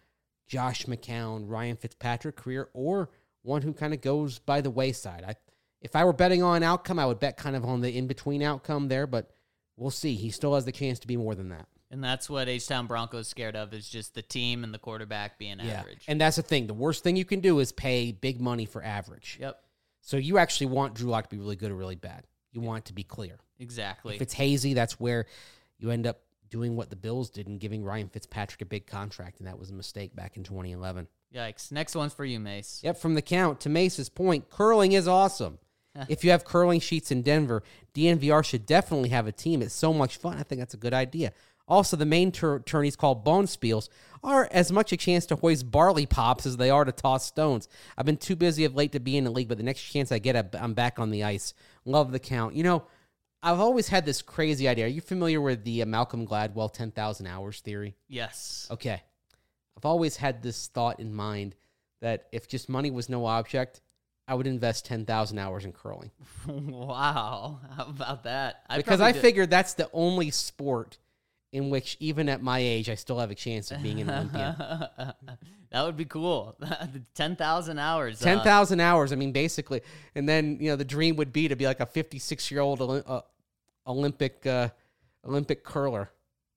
Josh McCown, Ryan Fitzpatrick career, or one who kind of goes by the wayside. If I were betting on an outcome, I would bet kind of on the in-between outcome there, but we'll see. He still has the chance to be more than that. And that's what H-Town Broncos scared of, is just the team and the quarterback being average. And that's the thing. The worst thing you can do is pay big money for average. Yep. So you actually want Drew Lock to be really good or really bad. You want it to be clear. Exactly. If it's hazy, that's where you end up doing what the Bills did and giving Ryan Fitzpatrick a big contract, and that was a mistake back in 2011. Yikes. Next one's for you, Mace. Yep, from the count, to Mace's point, curling is awesome. If you have curling sheets in Denver, DNVR should definitely have a team. It's so much fun. I think that's a good idea. Also, the main tourneys called Bonspiels are as much a chance to hoist barley pops as they are to toss stones. I've been too busy of late to be in the league, but the next chance I get, I'm back on the ice. Love the count. You know, I've always had this crazy idea. Are you familiar with the Malcolm Gladwell 10,000 hours theory? Yes. Okay. I've always had this thought in mind that if just money was no object, I would invest 10,000 hours in curling. Wow. How about that? Because I figured that's the only sport in which, even at my age, I still have a chance of being an Olympian. That would be cool. 10,000 hours. 10,000 hours. I mean, basically. And then, you know, the dream would be to be like a 56-year-old Olympic curler.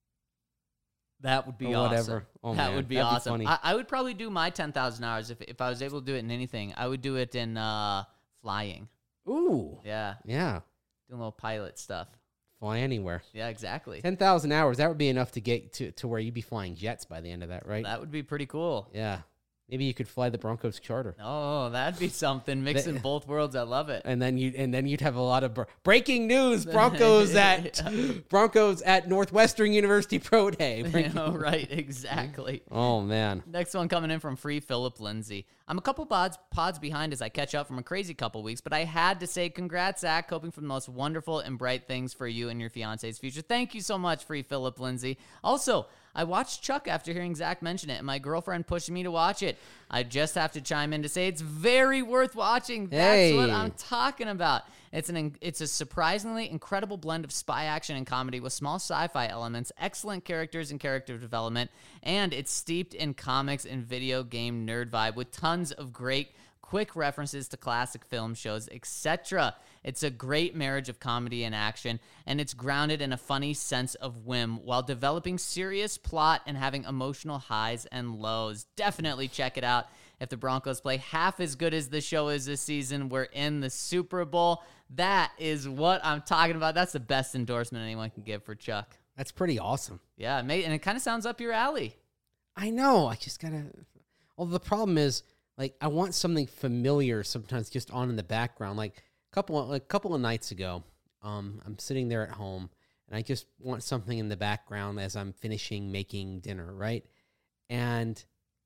That would be or awesome. Whatever. Oh, that man, would be that'd awesome. Be funny. I would probably do my 10,000 hours if I was able to do it in anything. I would do it in flying. Ooh. Yeah. Yeah. Doing little pilot stuff. Fly anywhere. Yeah, exactly. 10,000 hours. That would be enough to get to where you'd be flying jets by the end of that, right? That would be pretty cool. Yeah. Maybe you could fly the Broncos charter. Oh, that'd be something. Mixing both worlds. I love it. And then you'd have a lot of breaking news. Broncos at Northwestern University Pro Day. Right, exactly. Oh man. Next one coming in from Free Philip Lindsay. I'm a couple pods behind as I catch up from a crazy couple weeks, but I had to say congrats, Zach. Hoping for the most wonderful and bright things for you and your fiance's future. Thank you so much, Free Philip Lindsay. Also, I watched Chuck after hearing Zach mention it, and my girlfriend pushed me to watch it. I just have to chime in to say it's very worth watching. That's what I'm talking about. It's a surprisingly incredible blend of spy action and comedy with small sci-fi elements, excellent characters and character development, and it's steeped in comics and video game nerd vibe with tons of great quick references to classic film shows, etc. It's a great marriage of comedy and action, and it's grounded in a funny sense of whim while developing serious plot and having emotional highs and lows. Definitely check it out. If the Broncos play half as good as the show is this season, we're in the Super Bowl. That is what I'm talking about. That's the best endorsement anyone can give for Chuck. That's pretty awesome. Yeah, and it kind of sounds up your alley. I know. I just gotta. Well, the problem is, like, I want something familiar sometimes just on in the background. Like a couple of nights ago, I'm sitting there at home and I just want something in the background as I'm finishing making dinner, right? And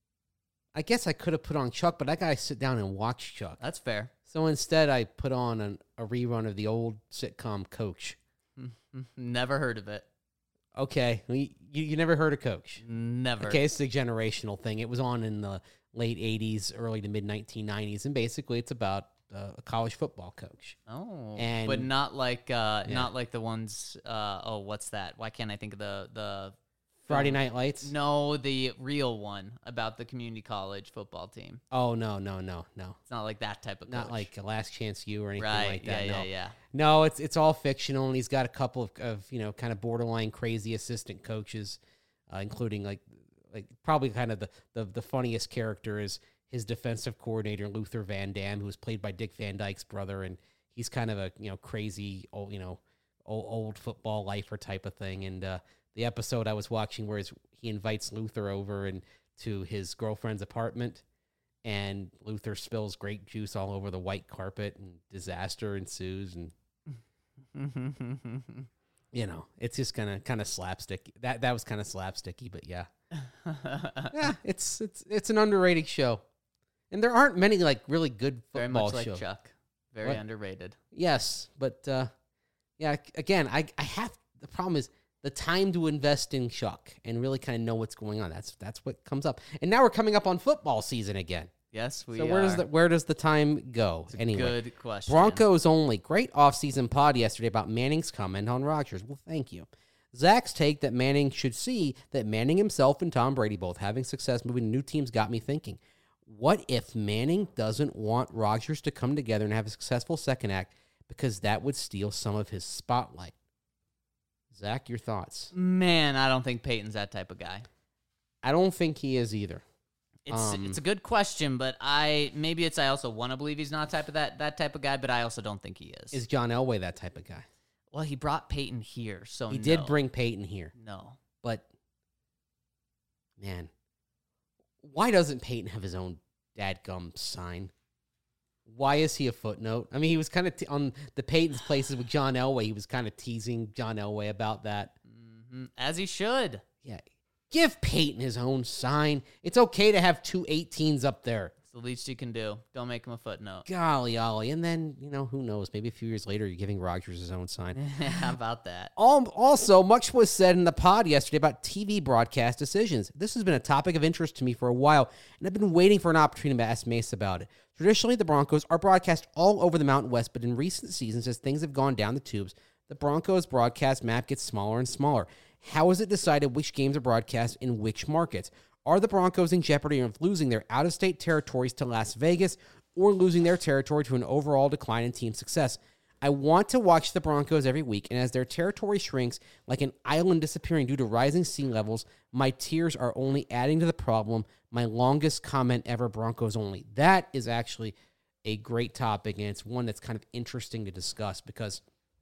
I guess I could have put on Chuck, but I gotta sit down and watch Chuck. That's fair. So instead, I put on a rerun of the old sitcom Coach. Never heard of it. Okay, you never heard of Coach? Never. Okay, it's a generational thing. It was on in the late 80s, early to mid 1990s, and basically it's about a college football coach. Oh, and but not like the ones. What's that? Why can't I think of the Friday Night Lights? No, the real one about the community college football team. Oh no! It's not like that type of coach. Not like Last Chance U or anything right. like that. Yeah. No, it's all fictional, and he's got a couple of kind of borderline crazy assistant coaches, including like probably kind of the funniest character is his defensive coordinator Luther Van Dam, who was played by Dick Van Dyke's brother, and he's kind of a crazy old football lifer type of thing. And the episode I was watching where he invites Luther over and to his girlfriend's apartment, and Luther spills grape juice all over the white carpet, and disaster ensues, and it's just kind of slapstick. That was kind of slapsticky, but yeah. Yeah, it's an underrated show, and there aren't many like really good football shows. Very much like Chuck, very underrated. Yes, but yeah. Again, I have the problem is the time to invest in Chuck and really kind of know what's going on. That's what comes up, and now we're coming up on football season again. Yes, we so are. Where does the time go? Anyway, good question. Broncos only. Great offseason pod yesterday about Manning's comment on Rodgers. Well, thank you. Zach's take that Manning should see that Manning himself and Tom Brady both having success moving to new teams got me thinking. What if Manning doesn't want Rodgers to come together and have a successful second act because that would steal some of his spotlight? Zach, your thoughts? Man, I don't think Peyton's that type of guy. I don't think he is either. It's a good question, but I also want to believe he's not that type of guy, but I also don't think he is. Is John Elway that type of guy? Well, he brought Peyton here, so he did bring Peyton here. No, but man, why doesn't Peyton have his own dadgum sign? Why is he a footnote? I mean, he was kind of on the Peyton's Places with John Elway. He was kind of teasing John Elway about that. Mm-hmm. As he should. Yeah. Give Peyton his own sign. It's okay to have 2 18s up there. It's the least you can do. Don't make him a footnote. Golly, ollie. And then, who knows? Maybe a few years later, you're giving Rodgers his own sign. How about that? Also, much was said in the pod yesterday about TV broadcast decisions. This has been a topic of interest to me for a while, and I've been waiting for an opportunity to ask Mace about it. Traditionally, the Broncos are broadcast all over the Mountain West, but in recent seasons, as things have gone down the tubes, the Broncos broadcast map gets smaller and smaller. How is it decided which games are broadcast in which markets? Are the Broncos in jeopardy of losing their out-of-state territories to Las Vegas or losing their territory to an overall decline in team success? I want to watch the Broncos every week, and as their territory shrinks like an island disappearing due to rising sea levels, my tears are only adding to the problem. My longest comment ever, Broncos only. That is actually a great topic, and it's one that's kind of interesting to discuss because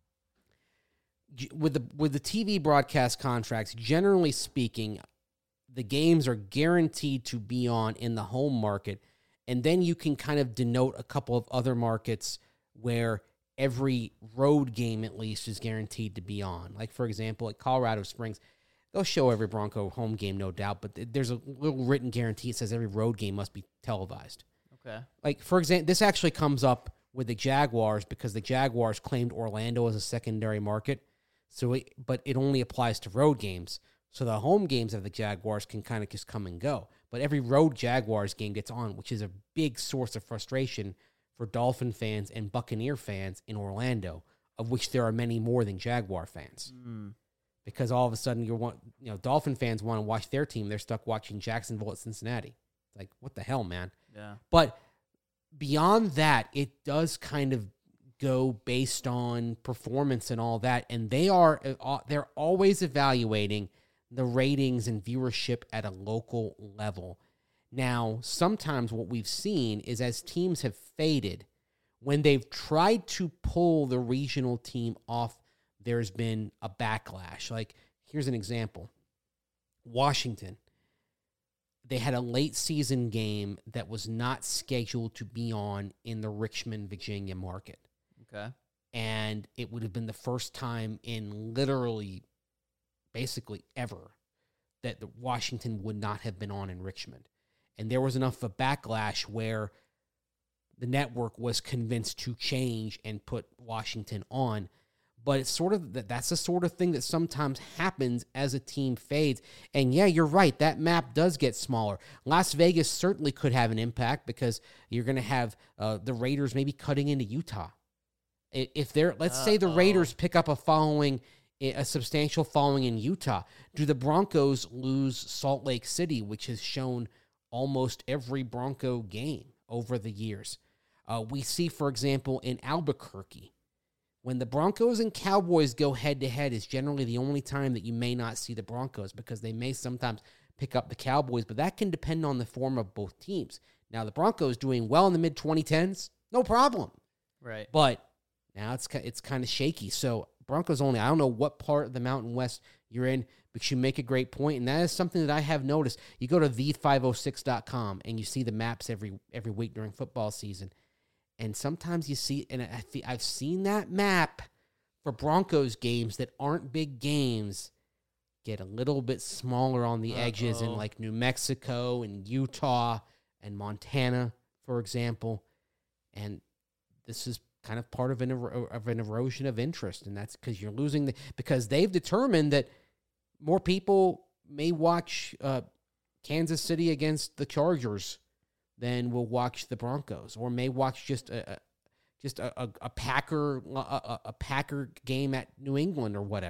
with the TV broadcast contracts, generally speaking, the games are guaranteed to be on in the home market, and then you can kind of denote a couple of other markets where every road game at least is guaranteed to be on. Like, for example, at Colorado Springs, they'll show every Bronco home game, no doubt, but there's a little written guarantee that says every road game must be televised. Okay. Like, for example, this actually comes up with the Jaguars because the Jaguars claimed Orlando as a secondary market, but it only applies to road games. So the home games of the Jaguars can kind of just come and go. But every road Jaguars game gets on, which is a big source of frustration for Dolphin fans and Buccaneer fans in Orlando, of which there are many more than Jaguar fans. Because all of a sudden Dolphin fans want to watch their team. They're stuck watching Jacksonville at Cincinnati. It's like, what the hell, man? Yeah. But beyond that, it does kind of go based on performance and all that. And they're always evaluating the ratings and viewership at a local level. Now, sometimes what we've seen is as teams have faded, when they've tried to pull the regional team off, there's been a backlash. Like, here's an example. Washington, they had a late season game that was not scheduled to be on in the Richmond, Virginia market. Okay. And it would have been the first time in literally basically ever that the Washington would not have been on in Richmond. And there was enough of a backlash where the network was convinced to change and put Washington on. But it's sort of that's the sort of thing that sometimes happens as a team fades. And yeah, you're right. That map does get smaller. Las Vegas certainly could have an impact because you're going to have the Raiders maybe cutting into Utah. If let's say the Raiders pick up a substantial following in Utah, do the Broncos lose Salt Lake City, which has shown almost every Bronco game over the years? We see, for example, in Albuquerque, when the Broncos and Cowboys go head-to-head is generally the only time that you may not see the Broncos because they may sometimes pick up the Cowboys, but that can depend on the form of both teams. Now, the Broncos doing well in the mid-2010s, no problem. Right. But now it's kind of shaky. So Broncos only. I don't know what part of the Mountain West you're in, but you make a great point, and that is something that I have noticed. You go to the506.com, and you see the maps every week during football season. And sometimes you see, and I've seen that map for Broncos games that aren't big games get a little bit smaller on the edges in like New Mexico and Utah and Montana, for example. And this is kind of part of an erosion of interest, and that's because you're losing because they've determined that more people may watch Kansas City against the Chargers than will watch the Broncos, or may watch just a Packer game at New England or whatever.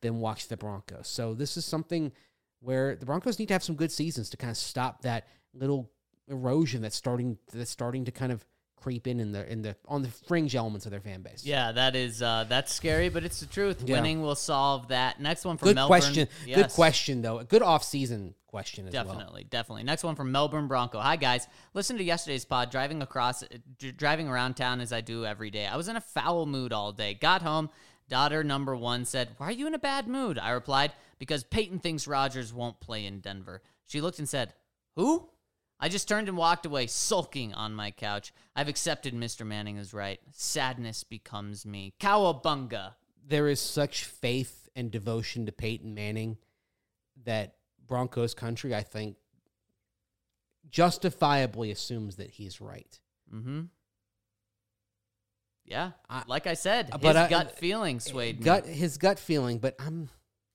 than watch the Broncos. So this is something where the Broncos need to have some good seasons to kind of stop that little erosion that's starting to kind of creep in the on the fringe elements of their fan base. Yeah, that is that's scary, but it's the truth. Yeah. Winning will solve that. Next one from good Melbourne. Question. Yes. Good question, though. A good off-season question as definitely, Definitely. Next one from Melbourne Bronco. Hi, guys. Listen to yesterday's pod, driving around town as I do every day. I was in a foul mood all day. Got home. Daughter number 1 said, "Why are you in a bad mood?" I replied, "Because Peyton thinks Rodgers won't play in Denver." She looked and said, "Who?" I just turned and walked away, sulking on my couch. I've accepted Mr. Manning is right. Sadness becomes me. Cowabunga. There is such faith and devotion to Peyton Manning that Broncos country, I think, justifiably assumes that he's right. Mm-hmm. Yeah, like I said, his gut feeling swayed me. His gut feeling, but I'm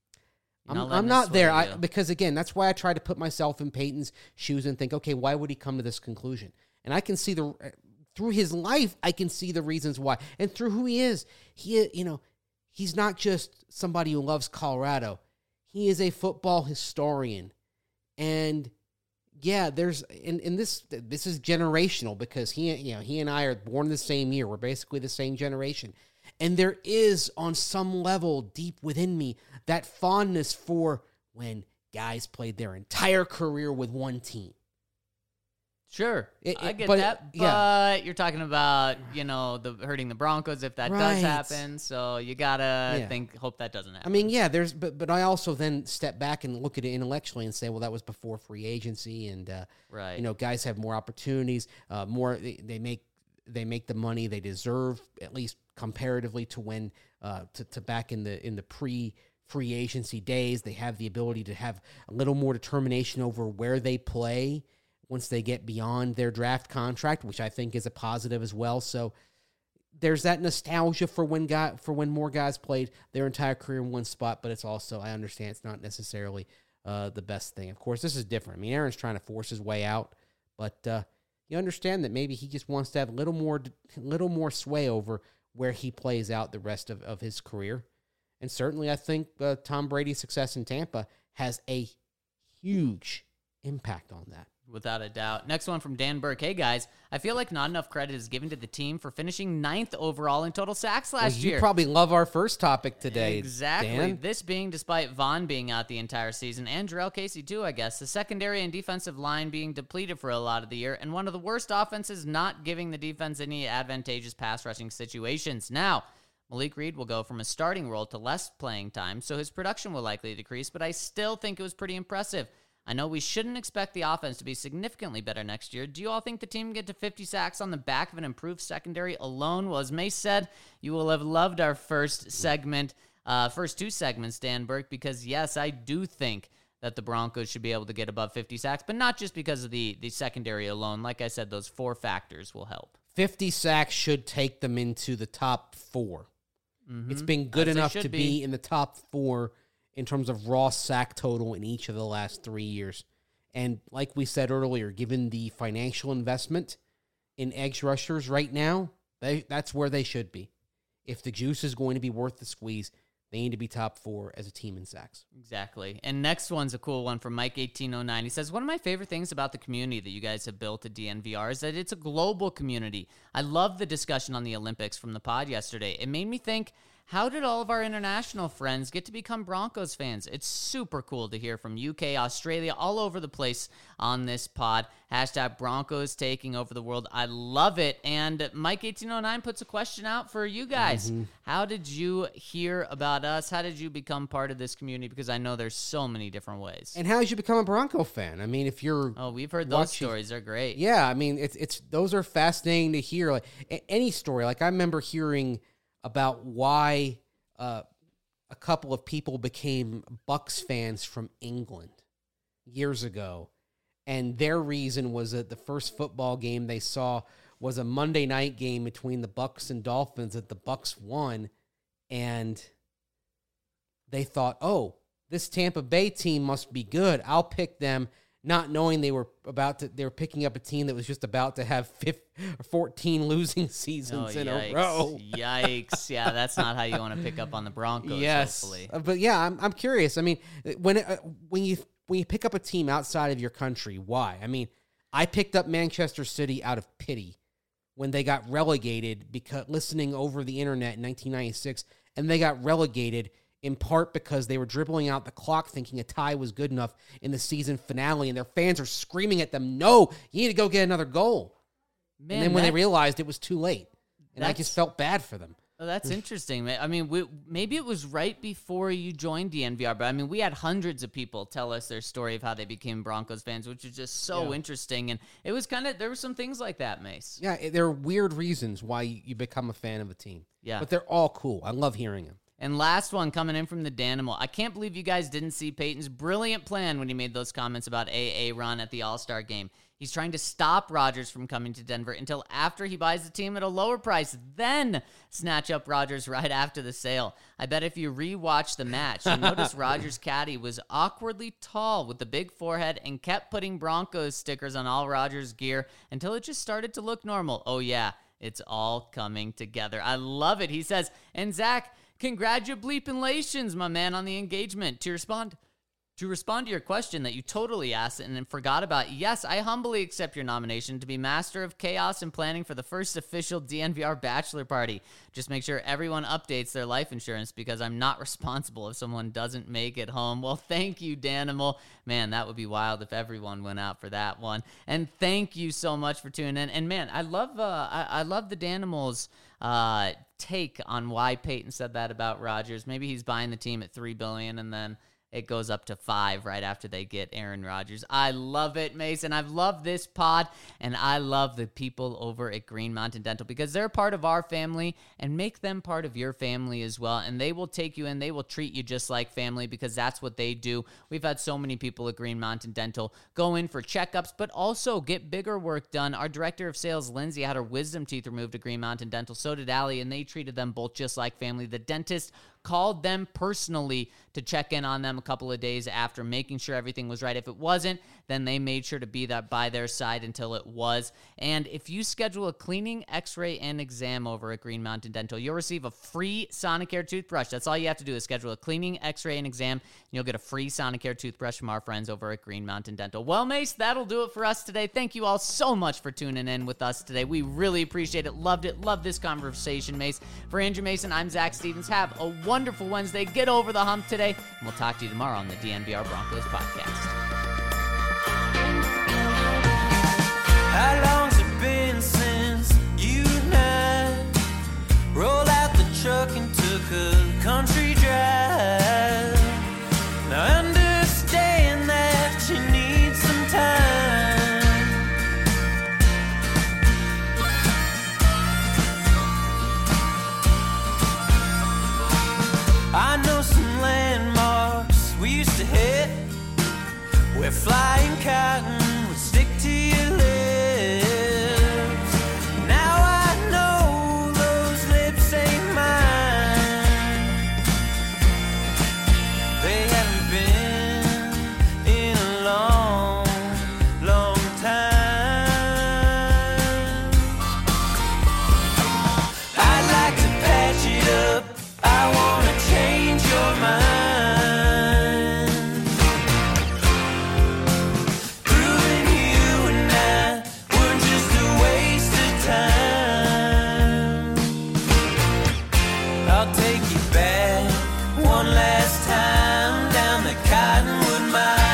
not there because, again, that's why I try to put myself in Peyton's shoes and think, okay, why would he come to this conclusion? And I can see through his life, I can see the reasons why. And through who he is, he's not just somebody who loves Colorado. He is a football historian. And yeah, this is generational because he and I are born the same year. We're basically the same generation. And there is, on some level, deep within me, that fondness for when guys played their entire career with one team. Sure, I get that, but you're talking about, hurting the Broncos if that does happen, so you gotta hope that doesn't happen. I mean, yeah, but I also then step back and look at it intellectually and say, well, that was before free agency, and guys have more opportunities, they make the money they deserve, at least comparatively to when to back in the pre-free agency days. They have the ability to have a little more determination over where they play once they get beyond their draft contract, which I think is a positive as well. So there's that nostalgia for when more guys played their entire career in one spot, but it's also, I understand it's not necessarily the best thing. Of course, this is different. I mean, Aaron's trying to force his way out, but you understand that maybe he just wants to have a little more sway over where he plays out the rest of his career. And certainly I think Tom Brady's success in Tampa has a huge impact on that. Without a doubt. Next one from Dan Burke. Hey, guys, I feel like not enough credit is given to the team for finishing 9th overall in total sacks last year. You probably love our first topic today, Exactly. Dan. This being despite Vaughn being out the entire season, and Jarrell Casey too, I guess. The secondary and defensive line being depleted for a lot of the year, and one of the worst offenses not giving the defense any advantageous pass rushing situations. Now, Malik Reed will go from a starting role to less playing time, so his production will likely decrease, but I still think it was pretty impressive. I know we shouldn't expect the offense to be significantly better next year. Do you all think the team can get to 50 sacks on the back of an improved secondary alone? Well, as Mace said, you will have loved our first two segments, Dan Burke, because yes, I do think that the Broncos should be able to get above 50 sacks, but not just because of the secondary alone. Like I said, those 4 factors will help. 50 sacks should take them into the top 4. Mm-hmm. It's been good enough to be in the top 4 in terms of raw sack total in each of the last 3 years. And like we said earlier, given the financial investment in edge rushers right now, that's where they should be. If the juice is going to be worth the squeeze, they need to be top 4 as a team in sacks. Exactly. And next one's a cool one from Mike1809. He says, one of my favorite things about the community that you guys have built at DNVR is that it's a global community. I love the discussion on the Olympics from the pod yesterday. It made me think, how did all of our international friends get to become Broncos fans? It's super cool to hear from UK, Australia, all over the place on this pod. Hashtag Broncos taking over the world. I love it. And Mike1809 puts a question out for you guys. Mm-hmm. How did you hear about us? How did you become part of this community? Because I know there's so many different ways. And how did you become a Bronco fan? I mean, if you're... Oh, we've heard those stories. They're great. Yeah, I mean, it's those are fascinating to hear. Like any story. Like I remember hearing about why a couple of people became Bucs fans from England years ago. And their reason was that the first football game they saw was a Monday night game between the Bucs and Dolphins that the Bucs won. And they thought, oh, this Tampa Bay team must be good. I'll pick them not knowing they were picking up a team that was just about to have 14 losing seasons in a row. Yikes. Yeah, that's not how you want to pick up on the Broncos, hopefully. But yeah, I'm curious. I mean, when you pick up a team outside of your country, why? I mean, I picked up Manchester City out of pity when they got relegated, because listening over the internet in 1996, and they got relegated in part because they were dribbling out the clock thinking a tie was good enough in the season finale, and their fans are screaming at them, no, you need to go get another goal. Man, and then when they realized it was too late, and I just felt bad for them. Oh, that's interesting. I mean, maybe it was right before you joined DNVR, but I mean, we had hundreds of people tell us their story of how they became Broncos fans, which is just so interesting. And it was there were some things like that, Mace. Yeah, there are weird reasons why you become a fan of a team. Yeah. But they're all cool. I love hearing them. And last one coming in from the Danimal. I can't believe you guys didn't see Peyton's brilliant plan when he made those comments about Ron at the All-Star game. He's trying to stop Rodgers from coming to Denver until after he buys the team at a lower price, then snatch up Rodgers right after the sale. I bet if you rewatch the match, you'll notice Rodgers' caddy was awkwardly tall with the big forehead and kept putting Broncos stickers on all Rodgers' gear until it just started to look normal. Oh yeah, it's all coming together. I love it. He says, and Zach, congratulations, my man, on the engagement. To respond to your question that you totally asked and then forgot about, yes, I humbly accept your nomination to be Master of Chaos and planning for the first official DNVR bachelor party. Just make sure everyone updates their life insurance because I'm not responsible if someone doesn't make it home. Well, thank you, Danimal. Man, that would be wild if everyone went out for that one. And thank you so much for tuning in. And man, I love the Danimal's take on why Peyton said that about Rodgers. Maybe he's buying the team at $3 billion and then it goes up to 5 right after they get Aaron Rodgers. I love it, Mason. I've loved this pod, and I love the people over at Green Mountain Dental because they're part of our family, and make them part of your family as well. And they will take you in. They will treat you just like family because that's what they do. We've had so many people at Green Mountain Dental go in for checkups, but also get bigger work done. Our director of sales, Lindsay, had her wisdom teeth removed at Green Mountain Dental. So did Allie, and they treated them both just like family. The dentist called them personally to check in on them a couple of days after, making sure everything was right. If it wasn't, then they made sure to be by their side until it was. And if you schedule a cleaning, x-ray, and exam over at Green Mountain Dental, you'll receive a free Sonicare toothbrush. That's all you have to do is schedule a cleaning, x-ray, and exam, and you'll get a free Sonicare toothbrush from our friends over at Green Mountain Dental. Well, Mace, that'll do it for us today. Thank you all so much for tuning in with us today. We really appreciate it. Loved it. Loved this conversation, Mace. For Andrew Mason, I'm Zach Stevens. Have a wonderful Wednesday. Get over the hump today, and we'll talk to you tomorrow on the DNVR Broncos podcast. How long's it been since you and I rolled out the truck and took a country drive? Now I understand that you need some time. I know some landmarks we used to hit where flying cotton would stick to your lips. Now I know those lips ain't mine. They haven't been in a long, long time. I'd like to patch it up. I wanna change your mind. Proving you and I were just a waste of time. I'll take you back one last time down the Cottonwood Mine.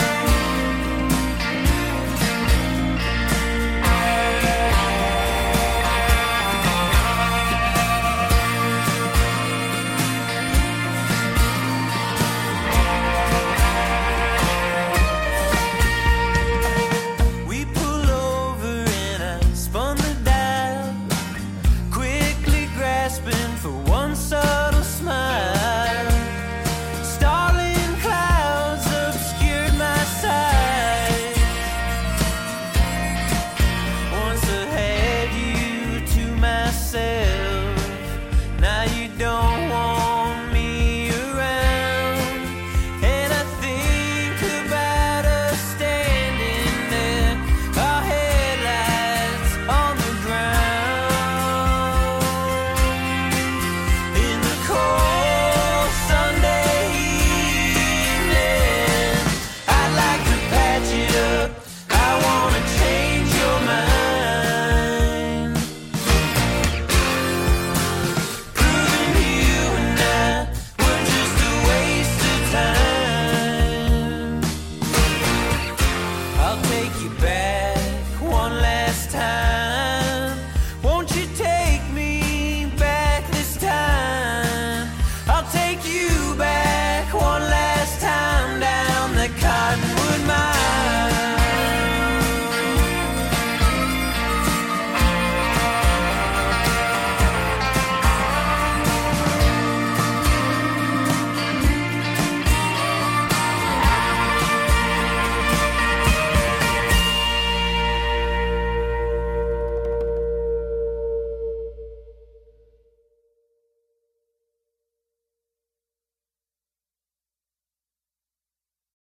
We pull over and I spun the dial, quickly grasping for one subtle smile. Starling clouds obscured my sight. Once I had you to myself.